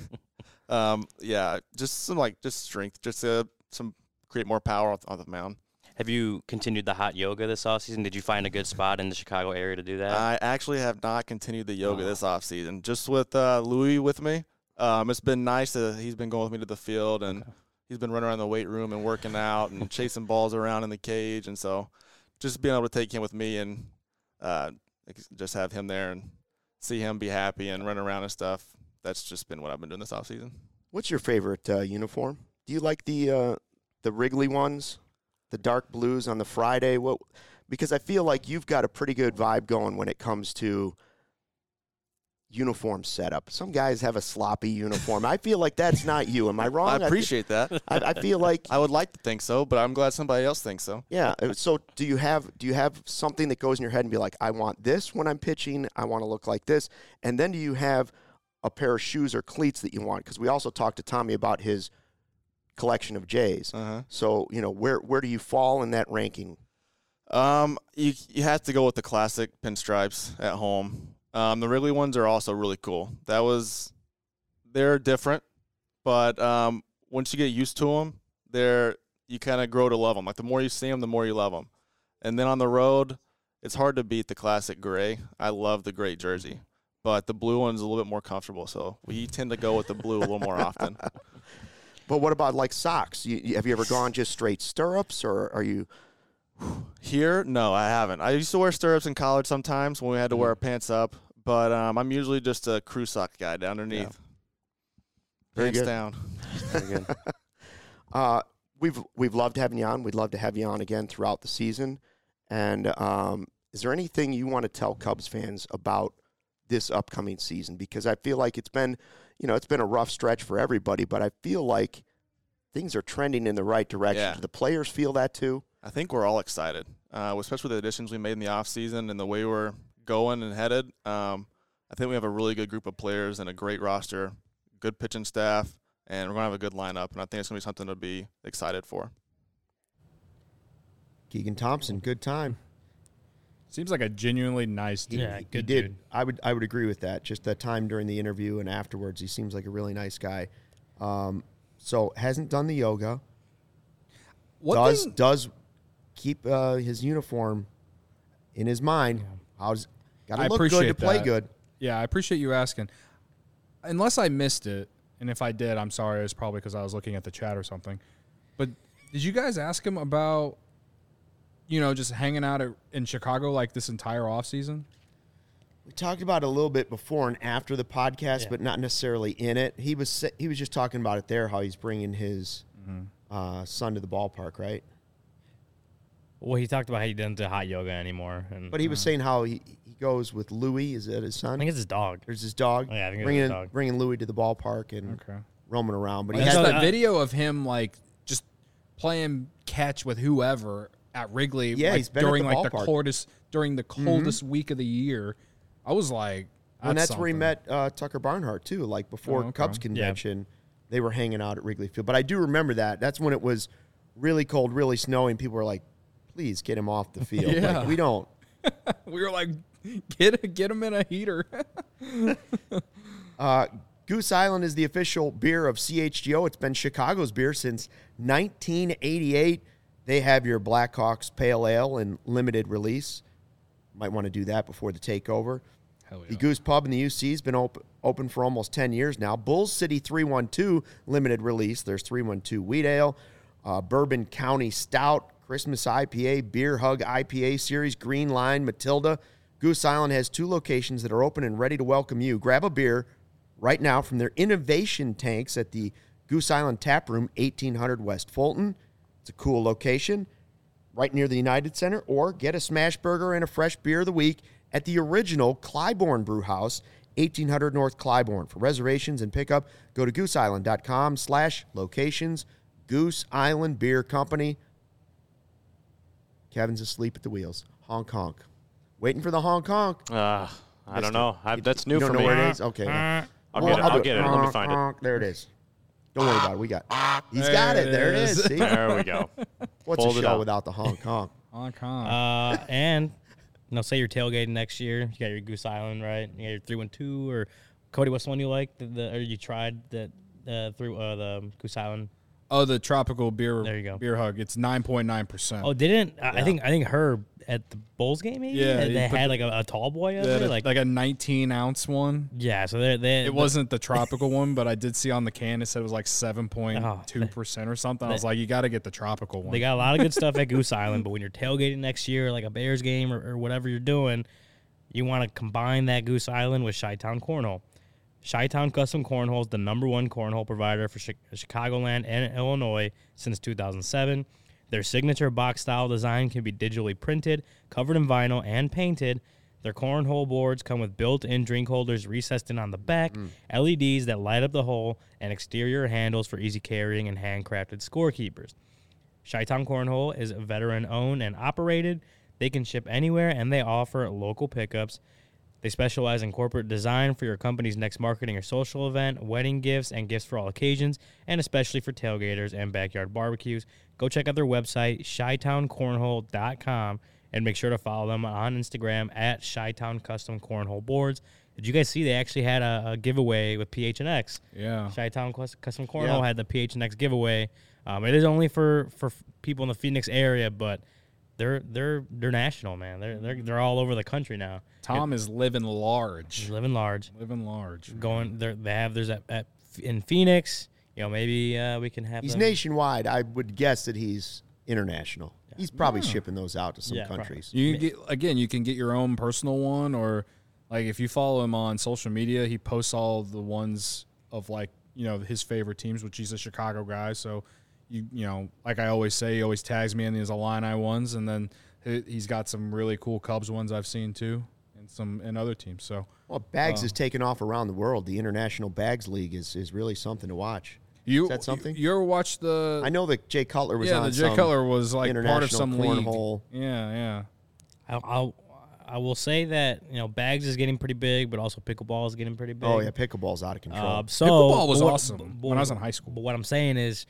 um, yeah, just some like just strength, just uh, some create more power on, on the mound. Have you continued the hot yoga this offseason? Did you find a good spot in the Chicago area to do that? I actually have not continued the yoga this off season, just with uh, Louis with me. Um, it's been nice that he's been going with me to the field, and he's been running around the weight room and working out and chasing balls around in the cage, and so just being able to take him with me and uh, just have him there and see him be happy and run around and stuff. That's just been what I've been doing this off season. What's your favorite uh, uniform? Do you like the uh, the Wrigley ones, the dark blues on the Friday? What? Because I feel like you've got a pretty good vibe going when it comes to uniform setup. Some guys have a sloppy uniform. I feel like that's not you. Am I wrong? I appreciate that. I, I feel like I would like to think so, but I'm glad somebody else thinks so. yeah. So do you have do you have something that goes in your head and be like, I want this when I'm pitching. I want to look like this. And then do you have a pair of shoes or cleats that you want? Because we also talked to Tommy about his collection of J's. Uh-huh. So you know where where do you fall in that ranking? Um, you you have to go with the classic pinstripes at home. Um, the Wrigley ones are also really cool. That was, they're different, but um, once you get used to them, they're you kind of grow to love them. Like the more you see them, the more you love them. And then on the road, it's hard to beat the classic gray. I love the gray jersey, but the blue one's a little bit more comfortable. So we tend to go with the blue a little more often. But what about like socks? You, you- have you ever gone just straight stirrups, or are you? Here, no, I haven't. I used to wear stirrups in college sometimes when we had to wear our pants up, but um, I'm usually just a crew sock guy down underneath. Very Pants good. down. Very good. Uh, we've we've loved having you on. We'd love to have you on again throughout the season. And um, is there anything you want to tell Cubs fans about this upcoming season? Because I feel like it's been, you know, it's been a rough stretch for everybody, but I feel like things are trending in the right direction. Yeah. Do the players feel that too? I think we're all excited, uh, especially the additions we made in the offseason and the way we're going and headed. Um, I think we have a really good group of players and a great roster, good pitching staff, and we're going to have a good lineup, and I think it's going to be something to be excited for. Keegan Thompson, good time. Seems like a genuinely nice dude. Yeah, He good did. dude. I would I would agree with that. Just that time during the interview and afterwards, he seems like a really nice guy. Um, so hasn't done the yoga. What does thing- does keep uh, his uniform in his mind. How's got I to look good to appreciate play that. good. Yeah, I appreciate you asking. Unless I missed it, and if I did, I'm sorry. It's probably because I was looking at the chat or something. But did you guys ask him about, you know, just hanging out at, in Chicago like this entire offseason? We talked about it a little bit before and after the podcast, Yeah. but not necessarily in it. He was sa- he was just talking about it there, how he's bringing his Mm-hmm. uh, son to the ballpark, right? Well, he talked about how he doesn't do hot yoga anymore, and But he was saying how he, he goes with Louis. Is that his I son? think it's his dog. There's his dog. Oh, yeah, I think it's bringing his dog. bringing Louis to the ballpark and Okay. roaming around. But he I had saw the- the uh, video of him like just playing catch with whoever at Wrigley. Yeah, like, he's been at during the like the ballpark. coldest during the coldest week of the year. I was like, and that's where he something. met uh, Tucker Barnhart too. Like before Oh, okay. Cubs convention, they were hanging out at Wrigley Field. But I do remember that. That's when it was really cold, really snowing. People were like, "Please get him off the field." Yeah. Like, we don't. We were like, get get him in a heater. Uh, Goose Island is the official beer of C H G O. It's been Chicago's beer since nineteen eighty-eight. They have your Blackhawks Pale Ale in limited release. Might want to do that before the takeover. Hell yeah. The Goose Pub in the U C has been op- open for almost ten years now. Bulls City three one two limited release. There's three one two Wheat Ale, uh, Bourbon County Stout, Christmas I P A, Beer Hug I P A Series, Green Line, Matilda. Goose Island has two locations that are open and ready to welcome you. Grab a beer right now from their innovation tanks at the Goose Island Tap Room, eighteen hundred West Fulton. It's a cool location right near the United Center, or get a smash burger and a fresh beer of the week at the original Clybourne Brew House, eighteen hundred North Clybourne. For reservations and pickup, go to gooseisland.com slash locations. Goose Island Beer Company. Kevin's asleep at the wheels. Honk, honk. Waiting for the honk, honk. Uh, I Missed don't know. I, that's new you don't for know me. where it is? Okay. Uh, I'll Well, get it. I'll do get it. Let me Honk, find it. honk. There it is. Don't worry about it. We got He's There got it. it There it is. is. See? There we go. What's Fold a it show up. without the honk, honk? Honk, honk. Uh, and you know, say you're tailgating next year. You got your Goose Island, right? You got your three one two, or Cody, what's the one you like? The, the or you tried that uh, through uh, the Goose Island? Oh, the tropical beer. There you go. Beer hug. It's nine point nine percent. Oh, didn't I I think I think Herb at the Bulls game maybe? Yeah, they he put had the- like a, a tall boy up there, like, like a nineteen ounce one. yeah. So they're they It wasn't the tropical one, but I did see on the can it said it was like seven point two percent or something. I was like, you got to get the tropical one. They got a lot of good stuff at Goose Island, but when you're tailgating next year, like a Bears game or, or whatever you're doing, you want to combine that Goose Island with Chi-Town Cornhole. Chi-Town Custom Cornhole is the number one cornhole provider for Chi- Chicagoland and Illinois since two thousand seven. Their signature box-style design can be digitally printed, covered in vinyl, and painted. Their cornhole boards come with built-in drink holders recessed in on the back, L E Ds that light up the hole, and exterior handles for easy carrying and handcrafted scorekeepers. Chi-Town Cornhole is veteran-owned and operated. They can ship anywhere, and they offer local pickups. They specialize in corporate design for your company's next marketing or social event, wedding gifts, and gifts for all occasions, and especially for tailgaters and backyard barbecues. Go check out their website, chi town cornhole dot com, and make sure to follow them on Instagram at Chi-Town Custom Cornhole Boards. Did you guys see they actually had a, a giveaway with P H N X? yeah. Chi-Town Cus- Custom Cornhole Yeah. had the P H N X giveaway. Um, it is only for, for people in the Phoenix area, but they're they're they're national, man. They're they're they're all over the country now. Tom is living large. Living large. Living large. Going there, they have there's at, at in Phoenix. You know, maybe uh, we can have. He's them. nationwide. I would guess that he's international. He's probably shipping those out to some Yeah, probably. countries. You can get again. You can get your own personal one, or like if you follow him on social media, he posts all the ones of like you know his favorite teams, which he's a Chicago guy. So you you know, like I always say, he always tags me in these Illini ones, and then he- he's got some really cool Cubs ones I've seen too, and some and other teams. So Well, Bags Uh, is taking off around the world. The International Bags League is, is really something to watch. you Is that something? You, you ever watched the? I know that Jay Cutler was yeah, on the Jay some Cutler was like part of international some league. cornhole. Yeah, yeah. I'll, I'll I will say that you know Bags is getting pretty big, but also pickleball is getting pretty big. Oh, yeah, pickleball's out of control. Uh, so Pickleball was but what- awesome but when I was what- in high school. But what I'm saying is,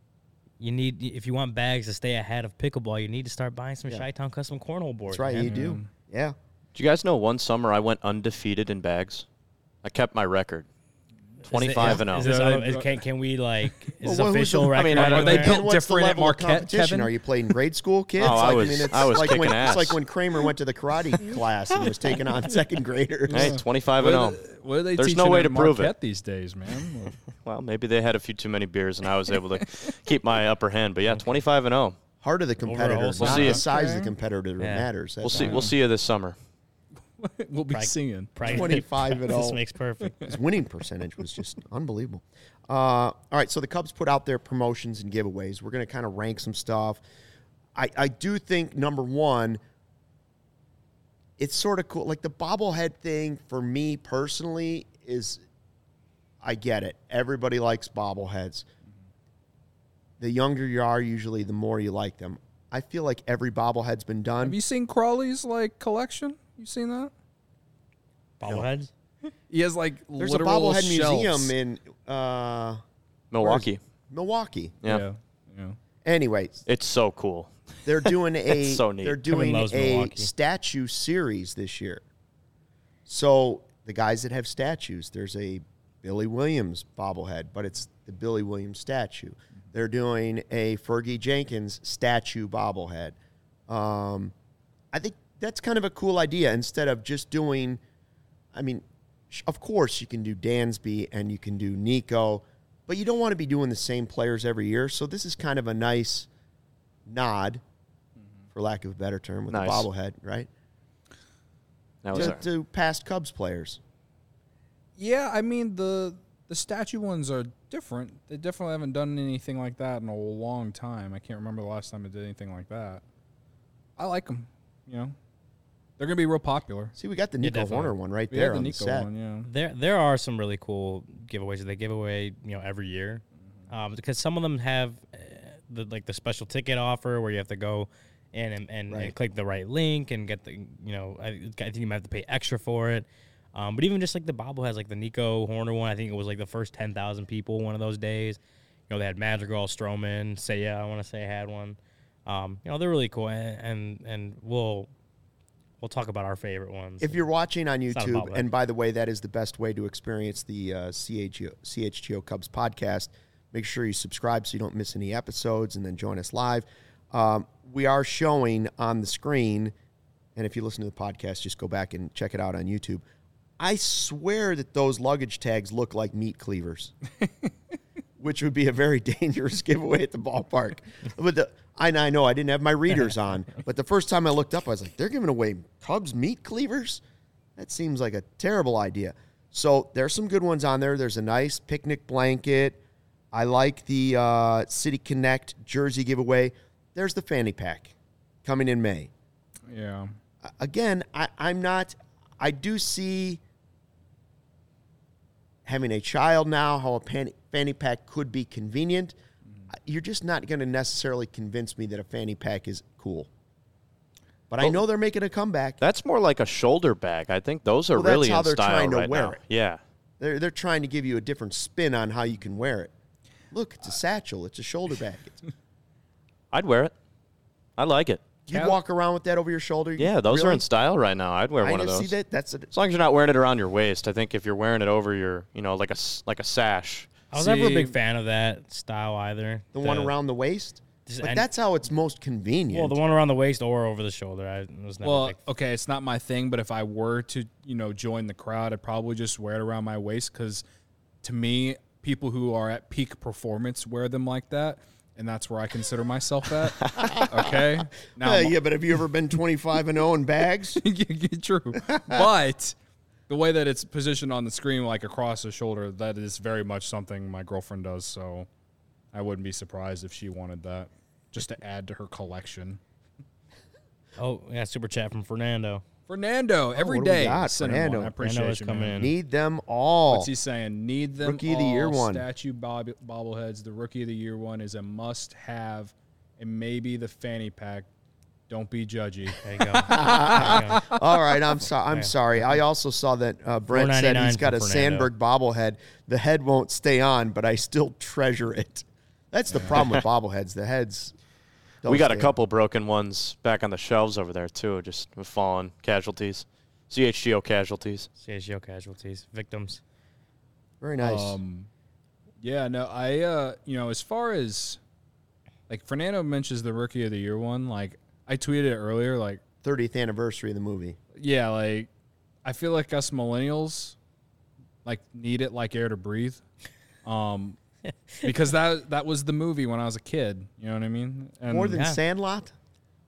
you need if you want Bags to stay ahead of pickleball, you need to start buying some Yeah. Chi-Town Custom Cornhole boards. That's right, man. you do. Yeah. Do you guys know one summer I went undefeated in bags? I kept my record. twenty-five and Is oh. this, Yeah, uh, they- is- can, can we like is this Well, who's official the- I record? mean, I- on are they there? built And what's different the at level of Marquette, competition? Kevin? Are you playing grade school kids? Oh, I like, was- mean, it's I was like kicking when, ass. It's like when Kramer went to the karate class and was taking on second graders. Hey, twenty-five What and are oh. they- what are they There's teaching no way at to prove it. Marquette these days, man? Well, maybe they had a few too many beers and I was able to keep my upper hand. But yeah, twenty-five and oh. Heart of the competitor, whole not We'll see the if- size of the Okay. competitor that Yeah. matters. We'll That's see. all. We'll see you this summer. we'll be Prag- singing. Practice- twenty-five at This all. makes perfect. His winning percentage was just unbelievable. Uh, all right, so the Cubs put out their promotions and giveaways. We're going to kind of rank some stuff. I, I do think, number one, it's sort of cool. Like the bobblehead thing, for me personally, is I get it. Everybody likes bobbleheads. The younger you are, usually, the more you like them. I feel like every bobblehead's been done. Have you seen Crawley's like collection? You seen that? Bobbleheads. He has like There's a literal bobblehead shelves. museum in uh, Milwaukee. Milwaukee. Yeah. yeah. yeah. Anyway, It's so cool. they're doing a It's so neat. they're Kevin doing loves a Milwaukee. statue series this year. So the guys that have statues, there's a Billy Williams bobblehead, but it's the Billy Williams statue. They're doing a Fergie Jenkins statue bobblehead. Um, I think that's kind of a cool idea. Instead of just doing, I mean, sh- of course you can do Dansby and you can do Nico, but you don't want to be doing the same players every year. So this is kind of a nice nod, for lack of a better term, with Nice. the bobblehead, right? That was To, our, to past Cubs players. Yeah, I mean the the statue ones are different. They definitely haven't done anything like that in a long time. I can't remember the last time I did anything like that. I like them. You know, they're gonna be real popular. See, we got the Yeah, Nico definitely. Horner one right We there had the on Nico the set. one, yeah. There, there are some really cool giveaways that they give away, you know, every year, um, because some of them have uh, the like the special ticket offer where you have to go in and, and, Right. and click the right link and get the, you know, I, I think you might have to pay extra for it. Um, but even just like the bobbleheads, like the Nico Horner one, I think it was like the first ten thousand people one of those days. You know, they had Madrigal, Stroman, Seiya, I want to say had one. Um, you know, they're really cool, and and, and we'll we'll talk about our favorite ones. If you're watching on It's not a YouTube, bobblehead. and by the way, that is the best way to experience the uh, C H G O, C H G O Cubs podcast. Make sure you subscribe so you don't miss any episodes, and then join us live. Um, we are showing on the screen, and if you listen to the podcast, just go back and check it out on YouTube. I swear that those luggage tags look like meat cleavers, which would be a very dangerous giveaway at the ballpark. But the, I, I know I didn't have my readers on, but the first time I looked up, I was like, they're giving away Cubs meat cleavers? That seems like a terrible idea. So there's some good ones on there. There's a nice picnic blanket. I like the uh, City Connect jersey giveaway. There's the fanny pack coming in May. Yeah. Again, I, I'm not, I do see having a child now, how a pan, fanny pack could be convenient. You're just not going to necessarily convince me that a fanny pack is cool. But I Well, know they're making a comeback. that's more like a shoulder bag. I think those are Well, that's really how in they're style trying to right wear now. it. Yeah. They're, they're trying to give you a different spin on how you can wear it. Look, it's a satchel. It's a shoulder bag. It's, I'd wear it. I like it. you Cal- walk around with that over your shoulder? Yeah, those are Really? in style right now. I'd wear I one of just those. see that. That's a, As long as you're not wearing it around your waist. I think if you're wearing it over your, you know, like a s- like a sash. I was never a See- big fan of that style either. the one around the waist. Just- But and- that's how it's most convenient. Well, the one around the waist or over the shoulder. I was never Well, a big okay, it's not my thing, but if I were to, you know, join the crowd, I'd probably just wear it around my waist because, to me, people who are at peak performance wear them like that, and that's where I consider myself at. Okay, now Uh, yeah, but have you ever been twenty-five and oh in bags? true, but the way that it's positioned on the screen, like across the shoulder, that is very much something my girlfriend does. So I wouldn't be surprised if she wanted that, just to add to her collection. Oh, yeah, super chat from Fernando. Fernando, every Oh, what do we day. got? send him Fernando. one. I appreciate Fernando is you, coming man. in. Need them all. What's he saying? Need them Rookie of all. the year one. Statue bob- bobbleheads. The rookie of the year one is a must-have, and maybe the fanny pack. Don't be judgy. There you go. There you go. All right, I'm sorry. I'm Yeah. sorry. I also saw that uh, Brent said four ninety-nine he's got for a Fernando. Sandberg bobblehead. The head won't stay on, but I still treasure it. That's the problem with bobbleheads. The heads. don't we got a stay on. couple broken ones back on the shelves over there too, just with fallen casualties. C H G O casualties. C H G O casualties, victims. Very nice. Um, yeah, no, I, uh, you know, as far as, like, Fernando mentions the rookie of the year one, like, I tweeted it earlier, like, thirtieth anniversary of the movie. yeah, like, I feel like us millennials, like, need it like air to breathe. Um, because that that was the movie when I was a kid. You know what I mean? And More than Yeah. Sandlot?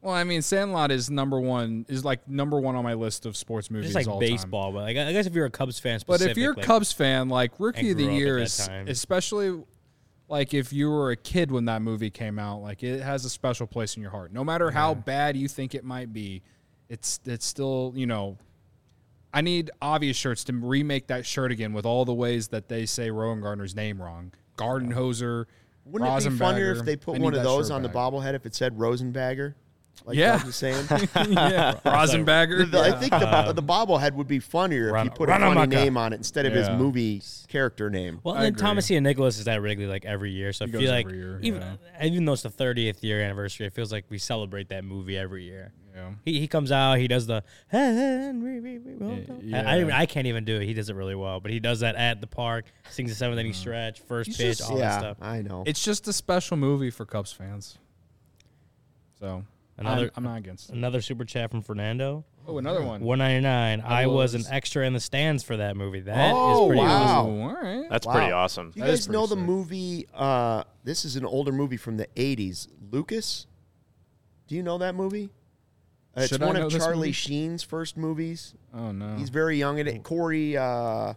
Well, I mean, Sandlot is number one, is like number one on my list of sports movies Just like all baseball, but like, I guess if you're a Cubs fan, But specific, if you're a like, Cubs fan, like Rookie I of the grew up at Year that is, time. especially like if you were a kid when that movie came out, like it has a special place in your heart. No matter how bad you think it might be, it's it's still, you know, I need Obvious Shirts to remake that shirt again with all the ways that they say Rowan Gardner's name wrong. Gardenhoser, Wouldn't it be funnier Rosenbagger. if they I put need one of that those shirt on the back. bobblehead if it said Rosenbagger? Like Yeah. Doug was saying. yeah, Rosenbagger. The- I think the, bo- the bobblehead would be funnier Run- if you put a funny Runamaka. name on it instead of his Yeah. movie character name. Well, I and then agree. Thomas Ian Nicholas is that Wrigley like every year, so I He feel goes like every year, even yeah. even though it's the thirtieth year anniversary, it feels like we celebrate that movie every year. Yeah. He he comes out, he does the Henry, we- we won't know. Yeah. I, I I can't even do it. He does it really well, but he does that at the park, sings the seventh inning stretch, first He's pitch, just- all that yeah, stuff. I know. It's just a special movie for Cubs fans. So Another I'm, I'm not against it. another super chat from Fernando. Oh, another one. one ninety-nine. I, I was, was- an extra in the stands for that movie. That is Oh, pretty wow. awesome. All right. That's Wow. pretty awesome. Do you That is guys know pretty the sick. movie? Uh, this is an older movie from the eighties. Lucas? Do you know that movie? Uh, it's Should I one know of this Charlie movie? Sheen's first movies. Oh no. He's very young in it. Corey, uh,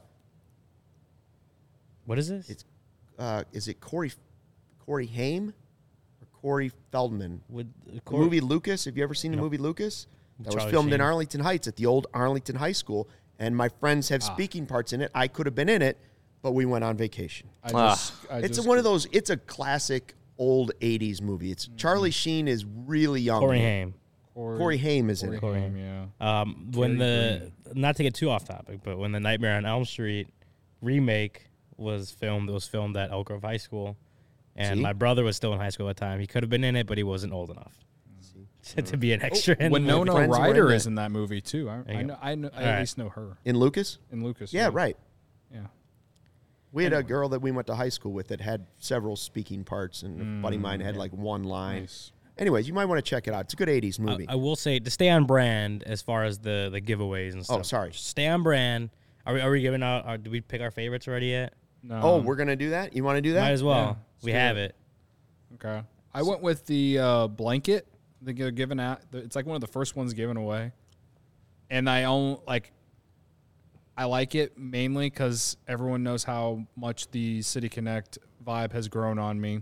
What is this? It's- uh, is it Corey, Corey Haim or Corey Feldman? With The movie Lucas. Have you ever seen the movie Lucas? That was Charlie filmed in Sheen. Arlington Heights at the old Arlington High School. And my friends have Ah. speaking parts in it. I could have been in it, but we went on vacation. I Ah. just, I It's just, one of those. It's a classic old eighties movie. It's Charlie Sheen is really young. Corey Haim. Corey, Corey Haim is in Corey it. Corey Haim, Haim. yeah. Um, when Very the not to get too off topic, but when the Nightmare on Elm Street remake was filmed, it was filmed at Elk Grove High School, and See? my brother was still in high school at the time. He could have been in it, but he wasn't old enough to be an extra. in the Winona movie. friends were in Ryder that. is in that movie too. I, There you I go. know. I, know, I All at right. least know her In Lucas? in Lucas. Yeah, right. Yeah. We had a girl that we went to high school with that had several speaking parts, and a buddy of mine had like one line. Nice. Anyways, you might want to check it out. It's a good eighties I, movie. I will say to stay on brand as far as the the giveaways and stuff. Oh, sorry. Stay on brand. Are we are we giving out? Are, did we pick our favorites already yet? No. oh, we're gonna do that. You want to do that? Might as well. Yeah, we let's do have it. it. Okay. I went with the uh, blanket. They get given out. It's like one of the first ones given away, and I own like. I like it mainly because everyone knows how much the City Connect vibe has grown on me,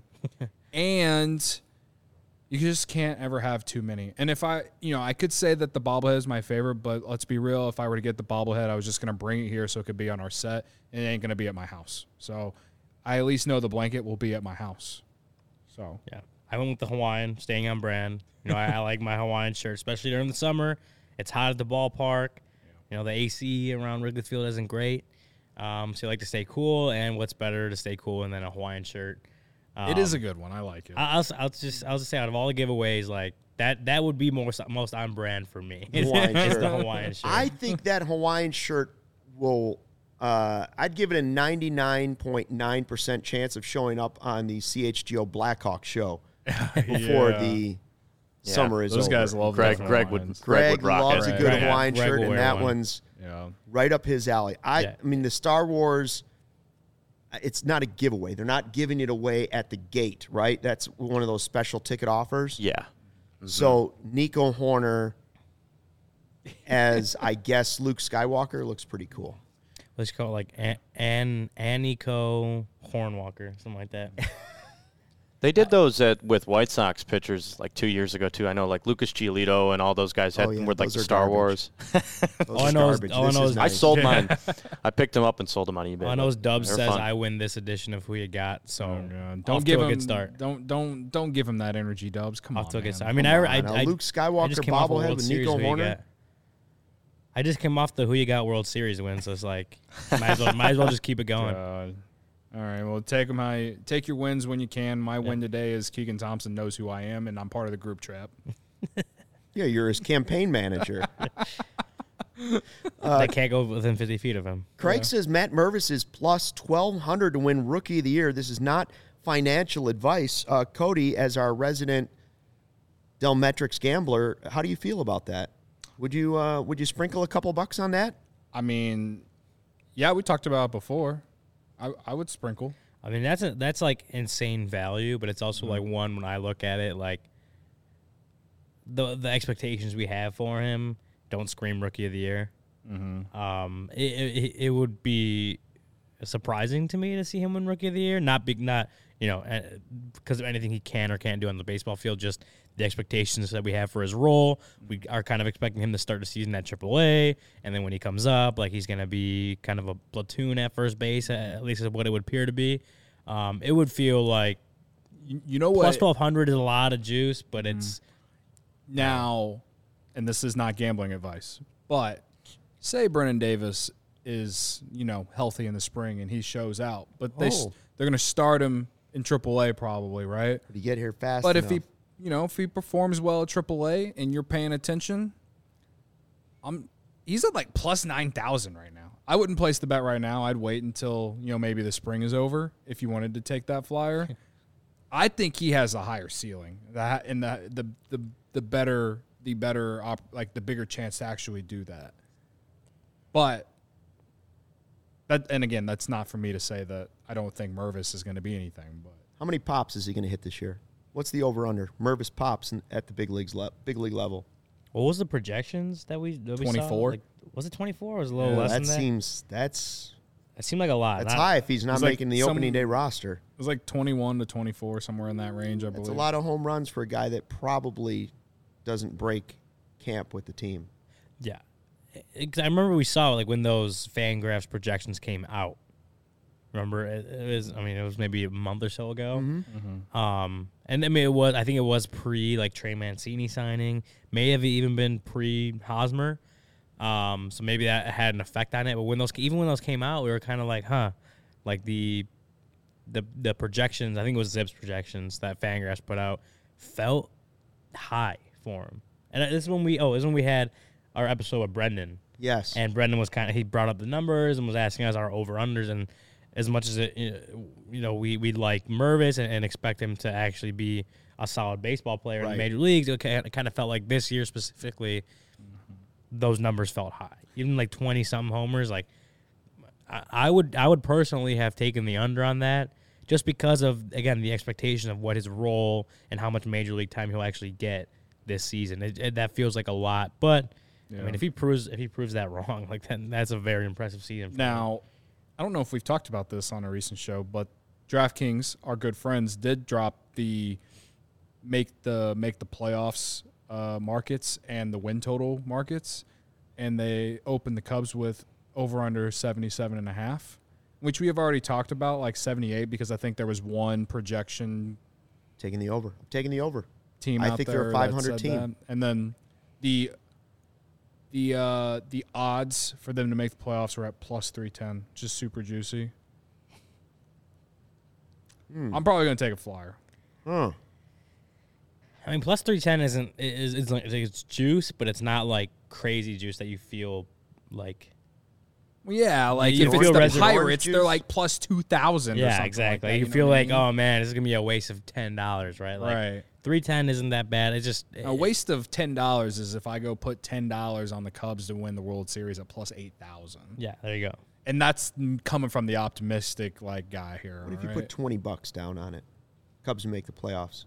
and you just can't ever have too many. And if I, you know, I could say that the bobblehead is my favorite, but let's be real. If I were to get the bobblehead, I was just gonna bring it here so it could be on our set, and it ain't gonna be at my house. So I at least know the blanket will be at my house. So Yeah, I went with the Hawaiian, staying on brand. You know, I, I like my Hawaiian shirt, especially during the summer. It's hot at the ballpark. You know, the A C around Wrigley Field isn't great, um, so you like to stay cool. And what's better to stay cool than a Hawaiian shirt? Um, it is a good one. I like it. I- I'll, I'll just I'll just say out of all the giveaways, like that that would be most most on brand for me. Hawaiian It's shirt. the Hawaiian shirt. I think that Hawaiian shirt will. Uh, I'd give it a ninety-nine point nine percent chance of showing up on the C H G O Blackhawk show before Yeah. the Yeah, summer is Those over. guys love Greg, those Greg would, Hawaiians. Greg, Greg would rock loves it. a good Greg- Hawaiian Greg shirt, will and wear that one. one's Yeah. right up his alley. I, Yeah. I mean, the Star Wars, it's not a giveaway. They're not giving it away at the gate, right? That's one of those special ticket offers. Yeah. So Nico Horner as, I guess, Luke Skywalker looks pretty cool. Let's call it like An An Aniko Hornwalker, something like that. They did those at, with White Sox pitchers like two years ago too. I know like Lucas Giolito and all those guys had Oh, yeah, with like those the are Star garbage. Wars. Those All I are know is- garbage. all I This know is is- I nice. sold mine. I picked them up and sold them on eBay. All I know is but Dubs they're says fun. I win this edition of Who You Got. So Oh, God. off Don't to give a him good start. Don't don't don't give him that energy, Dubs. Come Off on, to a good man. start. I mean, Come I, I, on, now. I, Luke I Skywalker just came off a bobblehead World with Series Nico Who You Horner. Got. I just came off the Who You Got World Series win, so it's like might as well, might as well just keep it going. God. All right, well, take them how you, take your wins when you can. My win today is Keegan Thompson knows who I am, and I'm part of the group trap. Yeah, you're his campaign manager. I can't go within fifty feet of him. Craig says Matt Mervis is plus twelve hundred to win Rookie of the Year. This is not financial advice. Uh, Cody, as our resident Delmetrics gambler, how do you feel about that? Would you uh, would you sprinkle a couple bucks on that? I mean, yeah, we talked about it before. I, I would sprinkle. I mean, that's a, that's like insane value, but it's also like one when I look at it, like the the expectations we have for him don't scream Rookie of the Year. Mm-hmm. Um, it, it it would be surprising to me to see him win Rookie of the Year. Not big, not you know, because of anything he can or can't do on the baseball field. Just the expectations that we have for his role. We are kind of expecting him to start the season at triple A, and then when he comes up, like he's going to be kind of a platoon at first base. At least is what it would appear to be. Um, it would feel like You, you know what? plus twelve hundred is a lot of juice, but it's Now, and this is not gambling advice, but say Brennan Davis is, you know, healthy in the spring and he shows out, but they, s- Oh. they're going to start him in triple A probably, right? Did he get here fast But enough? if he, you know, if he performs well at triple A and you're paying attention, I'm he's at like plus nine thousand right now. I wouldn't place the bet right now. I'd wait until, you know, maybe the spring is over if you wanted to take that flyer. I think he has a higher ceiling. That and the the the, the better the better op, like the bigger chance to actually do that. But that and again, that's not for me to say that I don't think Mervis is going to be anything, but How many pops is he going to hit this year? What's the over-under? Mervis pops in, at the big leagues le- big league level. what was the projections that we that we saw? twenty-four? Like, was it twenty-four or was it a little Yeah, less that than that? seems that's It seemed like a lot. that's Not- high if he's not It's like making the some- opening day roster. it was like twenty-one to twenty-four, somewhere in that range, I believe. That's a lot of home runs for a guy that probably doesn't break camp with the team. Yeah. It- 'cause I remember we saw like when those Fangraphs projections came out. Remember, it, it was. I mean, it was maybe a month or so ago. Um, and I mean, it was. I think it was pre like Trey Mancini signing. May have even been pre Hosmer. Um, so maybe that had an effect on it. But when those, even when those came out, we were kind of like, huh, like the, the the projections. I think it was Zib's projections that Fangraphs put out felt high for him. And this is when we. Oh, this is when we had our episode with Brendan. Yes. And Brendan was kind of, he brought up the numbers and was asking us our over-unders. And as much as, it, you know, we, we like Mervis and, and expect him to actually be a solid baseball player in Right. the major leagues, it kind of felt like this year specifically, those numbers felt high. Even like twenty-something homers, like, I, I would I would personally have taken the under on that just because of, again, the expectation of what his role and how much major league time he'll actually get this season. It, it, that feels like a lot. But, I Yeah. mean, if he proves if he proves that wrong, like then that's a very impressive season. For him. Now, I don't know if we've talked about this on a recent show, but DraftKings, our good friends, did drop the make the make the playoffs uh, markets and the win total markets, and they opened the Cubs with over under seventy-seven and a half, which we have already talked about, like seventy-eight, because I think there was one projection Taking the over. Taking the over. team I out think there they're a that five hundred said team. that. And then the the uh, the odds for them to make the playoffs were at plus three ten, just super juicy. Hmm. I'm probably gonna take a flyer. Huh. I mean, plus three ten isn't is it's like it's juice, but it's not like crazy juice that you feel like. Well, yeah, like you if feel it's the reservoir Pirates, juice? they're like plus two thousand. Yeah, exactly. Like that, you know feel what I like, mean? oh man, this is gonna be a waste of ten dollars, right? Like, right. three ten isn't that bad. It's just A waste of ten dollars is if I go put ten dollars on the Cubs to win the World Series at plus eight thousand. Yeah, there you go. And that's coming from the optimistic like guy here. What if you right? put twenty bucks down on it? Cubs make the playoffs.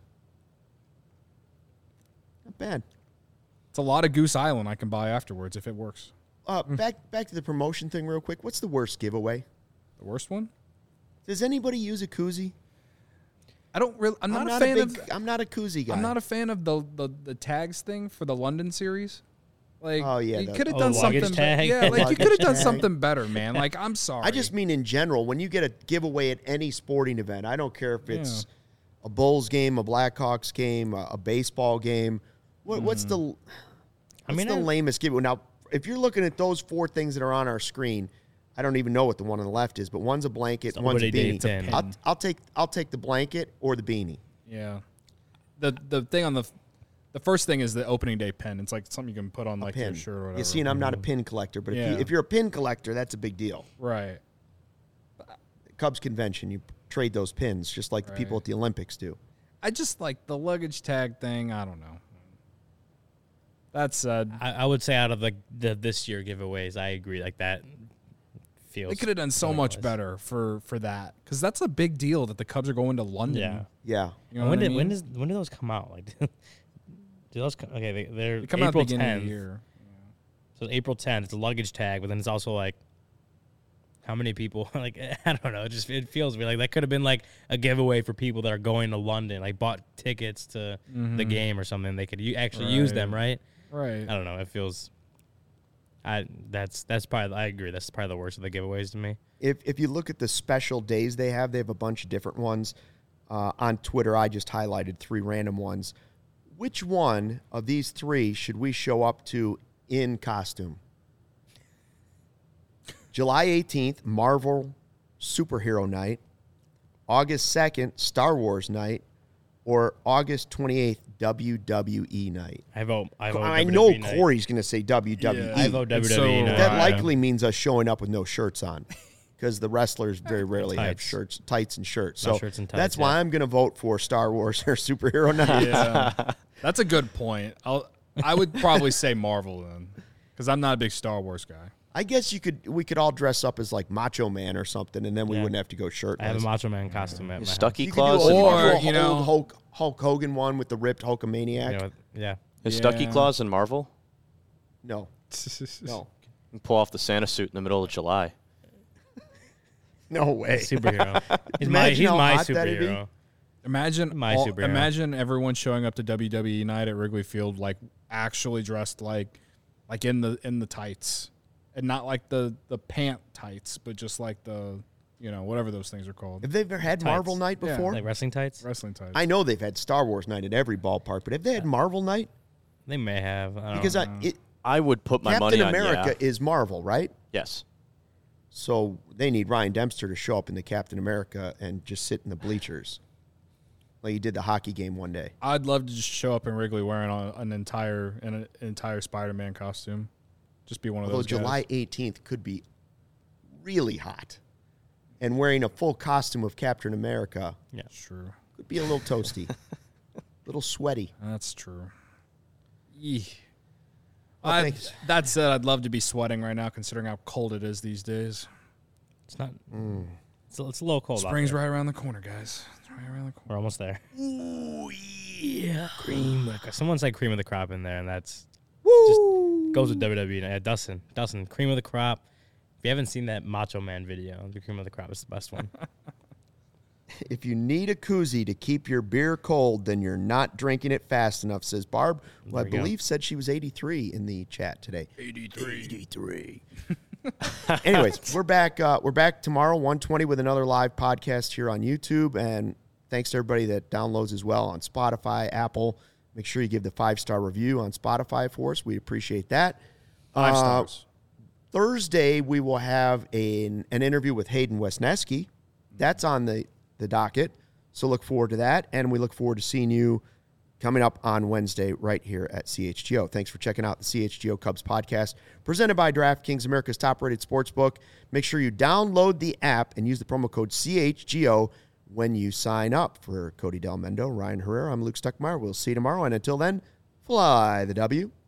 Not bad. It's a lot of Goose Island I can buy afterwards if it works. Uh, back back to the promotion thing real quick. What's the worst giveaway? The worst one? Does anybody use a koozie? I don't really. I'm not, I'm a not fan a big. of. I'm not a koozie guy. I'm not a fan of the, the the tags thing for the London series. Like, Oh, yeah, you the- could have Oh, done the luggage something. tag? Yeah, like you Luggage could have done tag. something better, man. Like, I'm sorry. I just mean in general, when you get a giveaway at any sporting event, I don't care if it's a Bulls game, a Blackhawks game, a, a baseball game. What, What's the what's I mean, the I- lamest giveaway? Now, if you're looking at those four things that are on our screen, I don't even know what the one on the left is, but one's a blanket, So one's what a they did, beanie. it's a I'll, pin. I'll take I'll take the blanket or the beanie. Yeah. The the thing on the the first thing is the opening day pin. It's like something you can put on like your Pin. shirt or whatever. You see, and I'm not a pin collector, but if, Yeah. you, if you're a pin collector, that's a big deal. Right. Cubs convention, you trade those pins just like the people Right. at the Olympics do. I just like the luggage tag thing. I don't know. That said, I, I would say out of the, the this year giveaways, I agree. Like that feels. they could have done so much pointless. better for for that because that's a big deal that the Cubs are going to London. Yeah. Yeah. You know when what I did when mean? does when do those come out? Like Do those co- okay, they, they're They come out at the April beginning tenth. of the year. So April tenth, it's a luggage tag, but then it's also like, how many people? Like, I don't know. It just it feels weird. Like that could have been like a giveaway for people that are going to London, like bought tickets to Mm-hmm. the game or something. They could u- actually use them, right? Right. I don't know. It feels. I that's that's probably I agree. That's probably the worst of the giveaways to me. If if you look at the special days they have, they have a bunch of different ones. Uh, on Twitter, I just highlighted three random ones. Which one of these three should we show up to in costume? July eighteenth, Marvel Superhero Night. August second, Star Wars Night. Or August twenty-eighth, W W E Night. I vote. I vote. I W W E know night. Corey's going to say W W E. Yeah. I vote W It's W E so night. That Right. likely means us showing up with no shirts on, because the wrestlers very rarely have Tights. shirts, tights and shirts. No So shirts and tights, that's why yeah. I'm going to vote for Star Wars or Superhero Night. Yeah. That's a good point. I'll, I would probably say Marvel then, because I'm not a big Star Wars guy. I guess you could. We could all dress up as like Macho Man or something, and then we Yeah. wouldn't have to go shirtless. I have a Macho Man costume at my house. Stucky You could do Claus. a, and Or, Marvel. or you know- old Hulk, Hulk Hogan one with the ripped Hulkamaniac. You know, yeah. Is Stucky Yeah. Claus and Marvel? No, no, And pull off the Santa suit in the middle of July. no way. Superhero. He's my Imagine he's how my hot that'd be. superhero. Imagine My all- superhero. Imagine everyone showing up to W W E night at Wrigley Field like actually dressed like like in the in the tights, and not like the the pant tights, but just like the you know whatever those things are called, Have they ever had Marvel Night Yeah. before? Like wrestling tights. wrestling tights. I know they've had Star Wars Night at every ballpark, but have they had Marvel Night? They may have. I don't Because know. I, it, I would put my Captain money on America yeah. is Marvel, right? Yes. So they need Ryan Dempster to show up in the Captain America and just sit in the bleachers, like he did the hockey game one day. I'd love to just show up in Wrigley wearing a, an entire an, an entire Spider-Man costume, just be one of Although those. guys. July eighteenth could be really hot, and wearing a full costume of Captain America yeah. True. could be a little toasty, a little sweaty. That's true. Yee. Well, I, thanks. that said, I'd love to be sweating right now, considering how cold it is these days. It's not. Mm. It's, a, it's a little cold. out Spring's there. right around the corner, guys. It's right around the corner. We're almost there. Ooh yeah. Cream. Of the, someone said cream of the crop in there, and that's just goes with W W E. Yeah, Dustin. Dustin. Cream of the crop. If you haven't seen that Macho Man video, the cream of the crop is the best one. If you need a koozie to keep your beer cold, then you're not drinking it fast enough, says Barb, who I There we go. believe said she was eighty-three in the chat today. eighty-three. eighty-three. Anyways, we're back. Uh, we're back tomorrow, one twenty, with another live podcast here on YouTube. And thanks to everybody that downloads as well on Spotify, Apple. Make sure you give the five-star review on Spotify for us. We appreciate that. Five Uh, stars. Thursday, we will have an, an interview with Hayden Wesneski. That's on the, the docket. So look forward to that. And we look forward to seeing you coming up on Wednesday right here at C H G O. Thanks for checking out the C H G O Cubs podcast presented by DraftKings, America's top-rated sportsbook. Make sure you download the app and use the promo code C H G O when you sign up. For Cody Del Mendo, Ryan Herrera, I'm Luke Stuckmeyer. We'll see you tomorrow. And until then, fly the W.